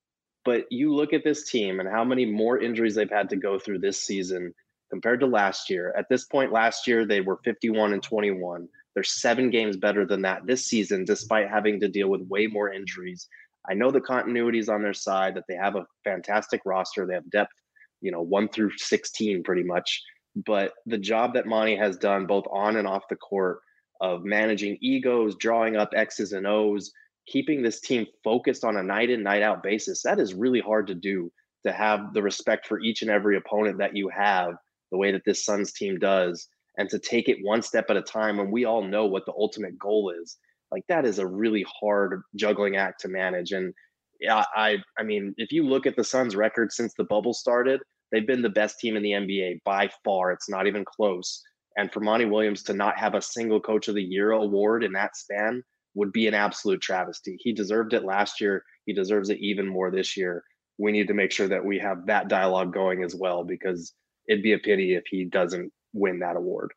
But you look at this team and how many more injuries they've had to go through this season compared to last year. At this point last year, they were fifty-one and twenty-one. They're seven games better than that this season, despite having to deal with way more injuries. I know the continuity is on their side, that they have a fantastic roster. They have depth, you know, one through sixteen pretty much. But the job that Monty has done both on and off the court of managing egos, drawing up X's and O's, keeping this team focused on a night in, night out basis, that is really hard to do, to have the respect for each and every opponent that you have, the way that this Suns team does, and to take it one step at a time when we all know what the ultimate goal is. Like, that is a really hard juggling act to manage. And yeah, I I mean, if you look at the Suns record since the bubble started, they've been the best team in the N B A by far. It's not even close. And for Monty Williams to not have a single Coach of the Year award in that span would be an absolute travesty. He deserved it last year. He deserves it even more this year. We need to make sure that we have that dialogue going as well, because it'd be a pity if he doesn't win that award.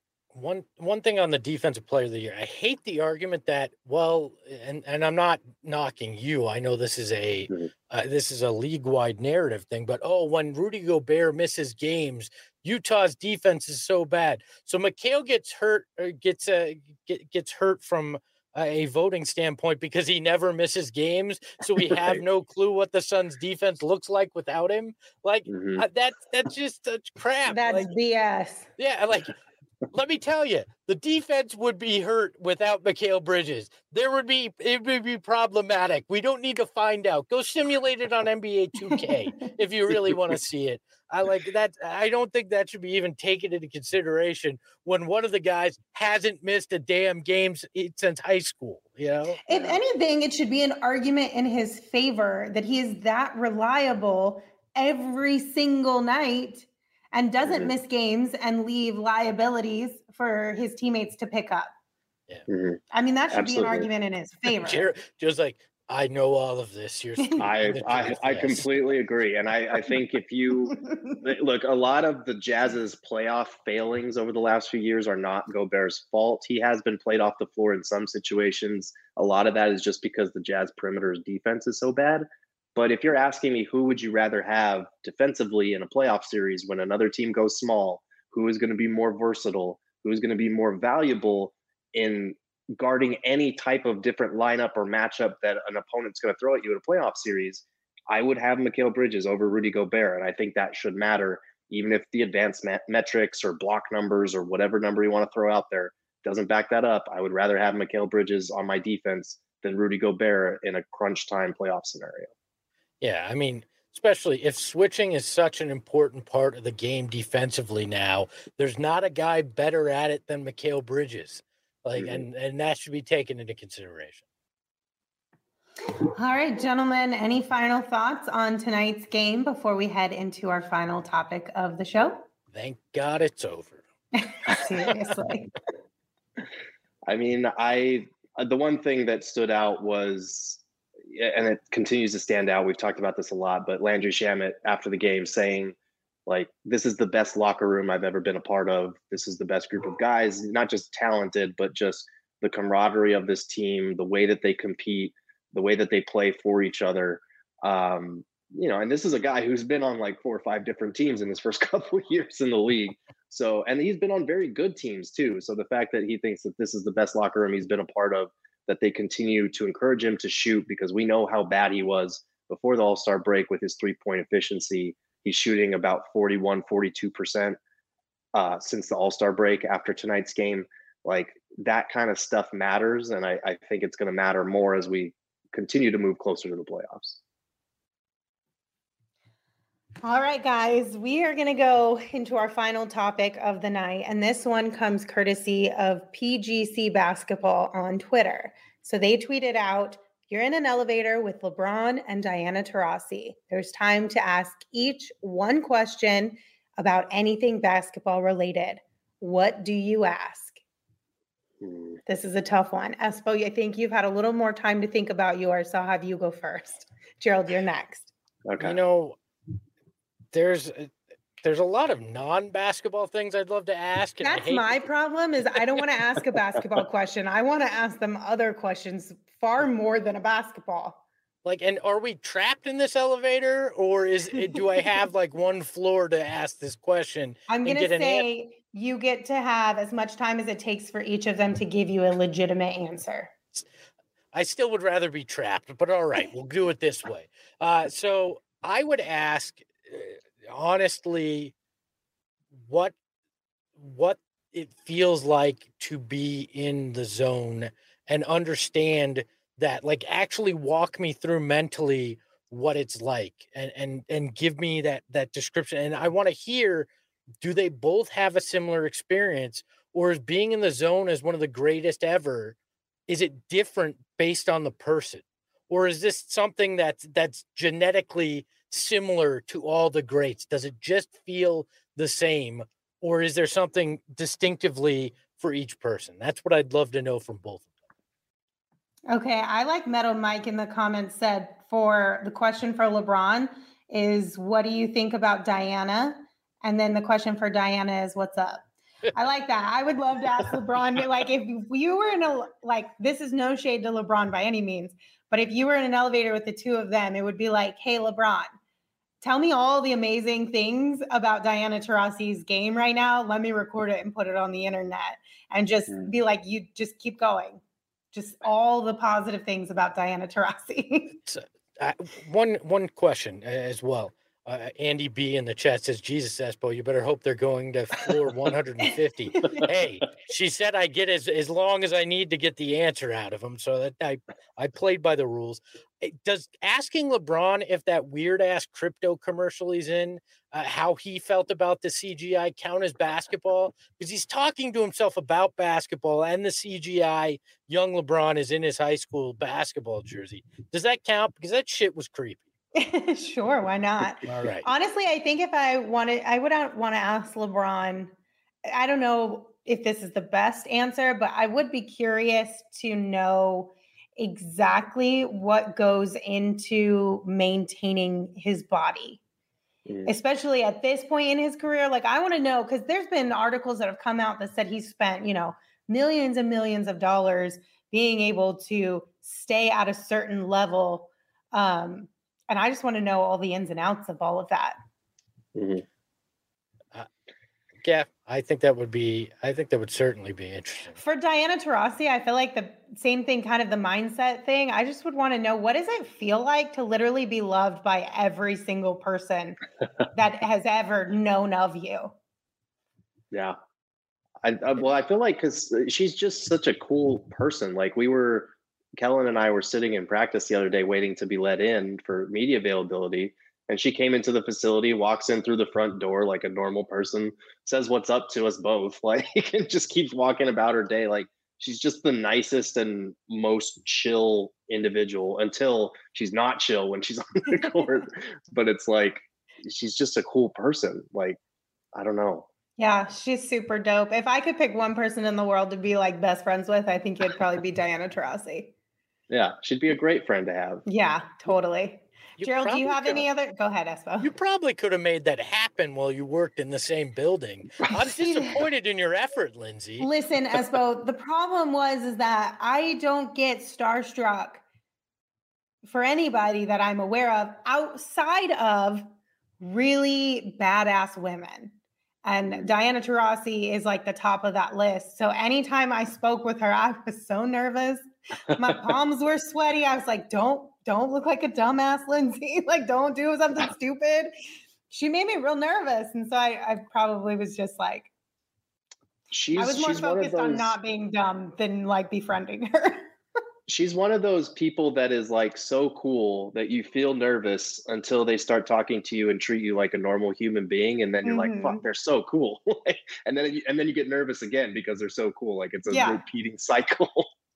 One one thing on the Defensive Player of the Year, I hate the argument that, well, and and I'm not knocking you. I know this is a Mhm. uh, this is a league wide narrative thing, but oh, when Rudy Gobert misses games, Utah's defense is so bad. So Mikal gets hurt, or gets uh, get, gets hurt from a voting standpoint because he never misses games. So we have Right. no clue what the Suns' defense looks like without him. Like Mhm. uh, that that's just such crap. That's Like, B S. yeah, like let me tell you, the defense would be hurt without Mikal Bridges. There would be it would be problematic. We don't need to find out. Go simulate it on N B A two K if you really want to see it. I like that. I don't think that should be even taken into consideration when one of the guys hasn't missed a damn game s- since high school. You know, If anything, it should be an argument in his favor that he is that reliable every single night and doesn't Mhm. miss games and leave liabilities for his teammates to pick up. Mhm. I mean, that should Absolutely. be an argument in his favor. Jared, just like I know all of this. You're speaking I the I, truth, I yes. completely agree. And I, I think if you look, a lot of the Jazz's playoff failings over the last few years are not Gobert's fault. He has been played off the floor in some situations. A lot of that is just because the Jazz perimeter's defense is so bad. But if you're asking me who would you rather have defensively in a playoff series when another team goes small, who is going to be more versatile, who is going to be more valuable in guarding any type of different lineup or matchup that an opponent's going to throw at you in a playoff series, I would have Mikal Bridges over Rudy Gobert. And I think that should matter, even if the advanced met- metrics or block numbers or whatever number you want to throw out there doesn't back that up. I would rather have Mikal Bridges on my defense than Rudy Gobert in a crunch time playoff scenario. Yeah, I mean, especially if switching is such an important part of the game defensively now, there's not a guy better at it than Mikal Bridges. Like, Mhm. and and that should be taken into consideration. All right, gentlemen, any final thoughts on tonight's game before we head into our final topic of the show? Thank God it's over. Seriously. I mean, I the one thing that stood out was, and it continues to stand out, we've talked about this a lot, but Landry Shamet after the game saying, like, this is the best locker room I've ever been a part of. This is the best group of guys, not just talented, but just the camaraderie of this team, the way that they compete, the way that they play for each other. Um, you know, and this is a guy who's been on like four or five different teams in his first couple of years in the league. So, and he's been on very good teams too. So the fact that he thinks that this is the best locker room he's been a part of, that they continue to encourage him to shoot, because we know how bad he was before the All-Star break with his three-point efficiency. He's shooting about forty-one, forty-two percent uh, since the All-Star break after tonight's game. Like, that kind of stuff matters. And I, I think it's going to matter more as we continue to move closer to the playoffs. All right, guys, we are going to go into our final topic of the night. And this one comes courtesy of P G C Basketball on Twitter. So they tweeted out, "You're in an elevator with LeBron and Diana Taurasi. There's time to ask each one question about anything basketball related. What do you ask?" Hmm. This is a tough one. Espo, I think you've had a little more time to think about yours, so I'll have you go first. Gerald, you're next. Okay. You know, there's there's a lot of non-basketball things I'd love to ask. And I That's hate my problem is I don't want to ask a basketball question. I want to ask them other questions far more than a basketball. Like, and are we trapped in this elevator, or is do I have like one floor to ask this question? I'm and going to get an say you get to have as much time as it takes for each of them to give you a legitimate answer. I still would rather be trapped, but all right, we'll do it this way. Uh, so I would ask, uh, honestly, what what it feels like to be in the zone and understand that, like, actually walk me through mentally what it's like, and and and give me that that description. And I want to hear, do they both have a similar experience, or is being in the zone as one of the greatest ever, is it different based on the person, or is this something that's that's genetically similar to all the greats? Does it just feel the same, or is there something distinctively for each person? That's what I'd love to know from both of them. Okay, I like Meadow Mike in the comments said for the question for LeBron is, what do you think about Diana? And then the question for Diana is, what's up? I like that. I would love to ask LeBron, like, if you were in a, like, this is no shade to LeBron by any means, but if you were in an elevator with the two of them, it would be like, hey, LeBron, tell me all the amazing things about Diana Taurasi's game right now. Let me record it and put it on the internet, and just be like, you just keep going. Just all the positive things about Diana Taurasi. So, uh, one one question as well. Uh, Andy B in the chat says, "Jesus, Espo, you better hope they're going to floor one hundred fifty." Hey, she said I get as as long as I need to get the answer out of them, so that I I played by the rules. Does asking LeBron if that weird ass crypto commercial he's in, uh, how he felt about the C G I, count as basketball? Because he's talking to himself about basketball, and the C G I young LeBron is in his high school basketball jersey. Does that count? Because that shit was creepy. Sure, why not? All right. Honestly, I think if I wanted, I would want to ask LeBron. I don't know if this is the best answer, but I would be curious to know exactly what goes into maintaining his body, mm. especially at this point in his career. Like, I want to know, because there's been articles that have come out that said he's spent, you know, millions and millions of dollars being able to stay at a certain level. Um, And I just want to know all the ins and outs of all of that. Mm-hmm. Uh, yeah, I think that would be, I think that would certainly be interesting. For Diana Taurasi, I feel like the same thing, kind of the mindset thing. I just would want to know, what does it feel like to literally be loved by every single person that has ever known of you? Yeah. I, I well, I feel like, because she's just such a cool person. Like, we were, Kellen and I were sitting in practice the other day waiting to be let in for media availability. And she came into the facility, walks in through the front door like a normal person, says what's up to us both, like, and just keeps walking about her day. Like, she's just the nicest and most chill individual until she's not chill when she's on the court. But it's like, she's just a cool person. Like, I don't know. Yeah, she's super dope. If I could pick one person in the world to be like best friends with, I think it'd probably be Diana Taurasi. Yeah, she'd be a great friend to have. Yeah, totally. You Gerald, do you probably have could- any other? Go ahead, Espo. You probably could have made that happen while you worked in the same building. I'm disappointed in your effort, Lindsay. Listen, Espo, the problem was is that I don't get starstruck for anybody that I'm aware of outside of really badass women. And Diana Taurasi is like the top of that list. So anytime I spoke with her, I was so nervous. My palms were sweaty. I was like, don't, don't look like a dumbass, Lindsay. Like, don't do something stupid. She made me real nervous. And so I, I probably was just like, She's, I was more she's one of focused on those- not being dumb than like befriending her. She's one of those people that is like so cool that you feel nervous until they start talking to you and treat you like a normal human being, and then you're Mhm. like, "Fuck, they're so cool," and then you, and then you get nervous again because they're so cool. Like it's a Yeah. repeating cycle.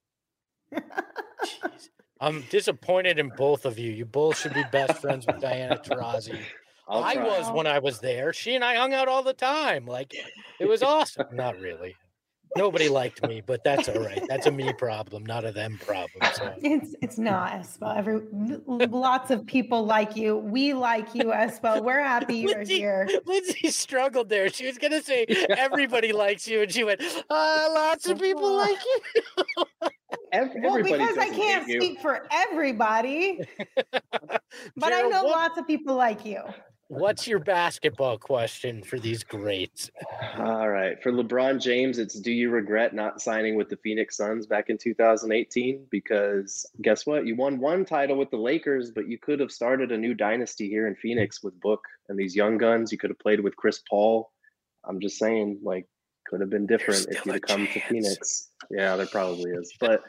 Jeez. I'm disappointed in both of you. You both should be best friends with Diana Taurasi. I'll I try. was when I was there. She and I hung out all the time. Like, it was awesome. Not really. Nobody liked me, but that's all right. That's a me problem, not a them problem. So It's it's not Espo. Every lots of people like you. We like you, Espo. We're happy you're Lindsay- here. Lindsay struggled there. She was gonna say everybody likes you, and she went, uh, "Lots of people like you." Ev- Well, everybody because I doesn't can't hate you. speak for everybody, but I Gerald, know what- lots of people like you. What's your basketball question for these greats? All right, for LeBron James, it's do you regret not signing with the Phoenix Suns back in two thousand eighteen? Because guess what? You won one title with the Lakers, but you could have started a new dynasty here in Phoenix with Book and these young guns. You could have played with Chris Paul. I'm just saying, like, could have been different if still you'd a have come to chance. Phoenix. Yeah, there probably is. But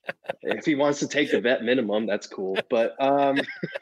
if he wants to take the vet minimum, that's cool. But um,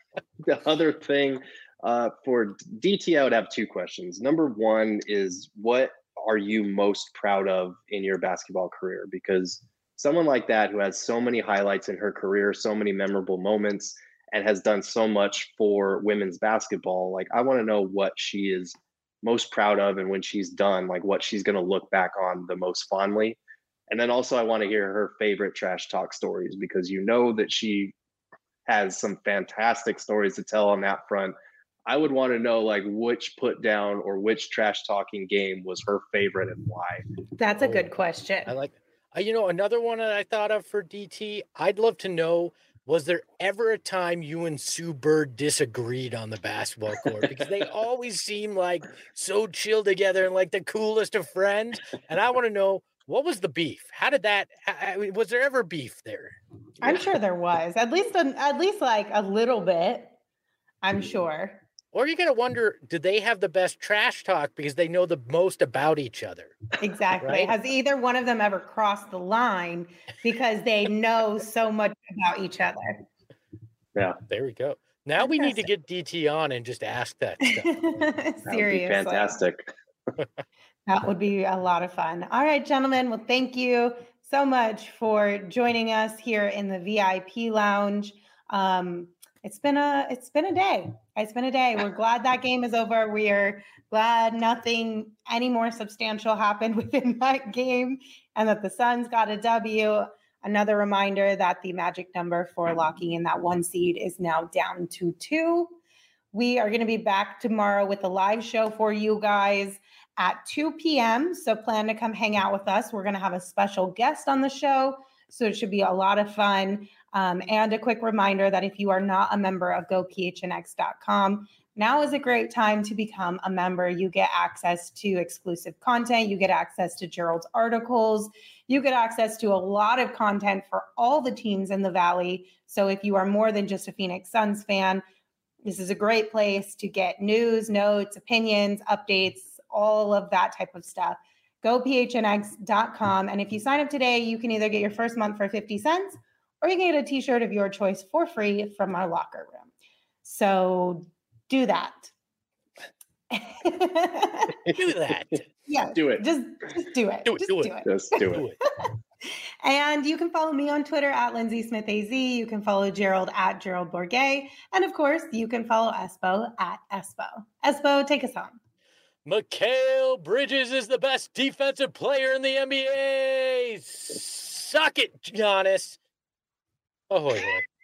the other thing, uh, for D T, I would have two questions. Number one is, what are you most proud of in your basketball career? Because someone like that who has so many highlights in her career, so many memorable moments, and has done so much for women's basketball, like, I want to know what she is most proud of, and when she's done, like, what she's going to look back on the most fondly. And then also I want to hear her favorite trash talk stories, because you know that she has some fantastic stories to tell on that front. I would want to know, like, which put down or which trash talking game was her favorite and why. That's a Oh, good question. I like, uh, you know, another one that I thought of for D T. I'd love to know, was there ever a time you and Sue Bird disagreed on the basketball court? Because they always seem like so chill together and like the coolest of friends. And I want to know, what was the beef? How did that? I mean, was there ever beef there? I'm sure there was at least a, at least like a little bit. I'm sure. Or you gotta wonder, do they have the best trash talk because they know the most about each other? Exactly. Right? Has either one of them ever crossed the line because they know so much about each other? Yeah, There we go. Now we need to Interesting. get D T on and just ask that stuff. that would be Seriously. fantastic. That would be a lot of fun. All right, gentlemen. Well, thank you so much for joining us here in the V I P lounge. Um, it's been a it's been a day. It's been a day. We're glad that game is over. We are glad nothing any more substantial happened within that game, and that the Suns got a W. Another reminder that the magic number for locking in that one seed is now down to two. We are going to be back tomorrow with a live show for you guys at two p.m. So plan to come hang out with us. We're going to have a special guest on the show, so it should be a lot of fun. Um, and a quick reminder that if you are not a member of go p h n x dot com, now is a great time to become a member. You get access to exclusive content. You get access to Gerald's articles. You get access to a lot of content for all the teams in the Valley. So if you are more than just a Phoenix Suns fan, this is a great place to get news, notes, opinions, updates, all of that type of stuff. go p h n x dot com. And if you sign up today, you can either get your first month for fifty cents or you can get a t-shirt of your choice for free from our locker room. So do that. Do that. Yeah. Do it. Just, just do it. Do it, Just do do it. it. Just do it. Do it. And you can follow me on Twitter at Lindsay Smith A Z. You can follow Gerald at Gerald Bourget. And of course, you can follow Espo at Espo. Espo, take us home. Mikal Bridges is the best defensive player in the N B A. Suck it, Giannis. Ahoy, hoy.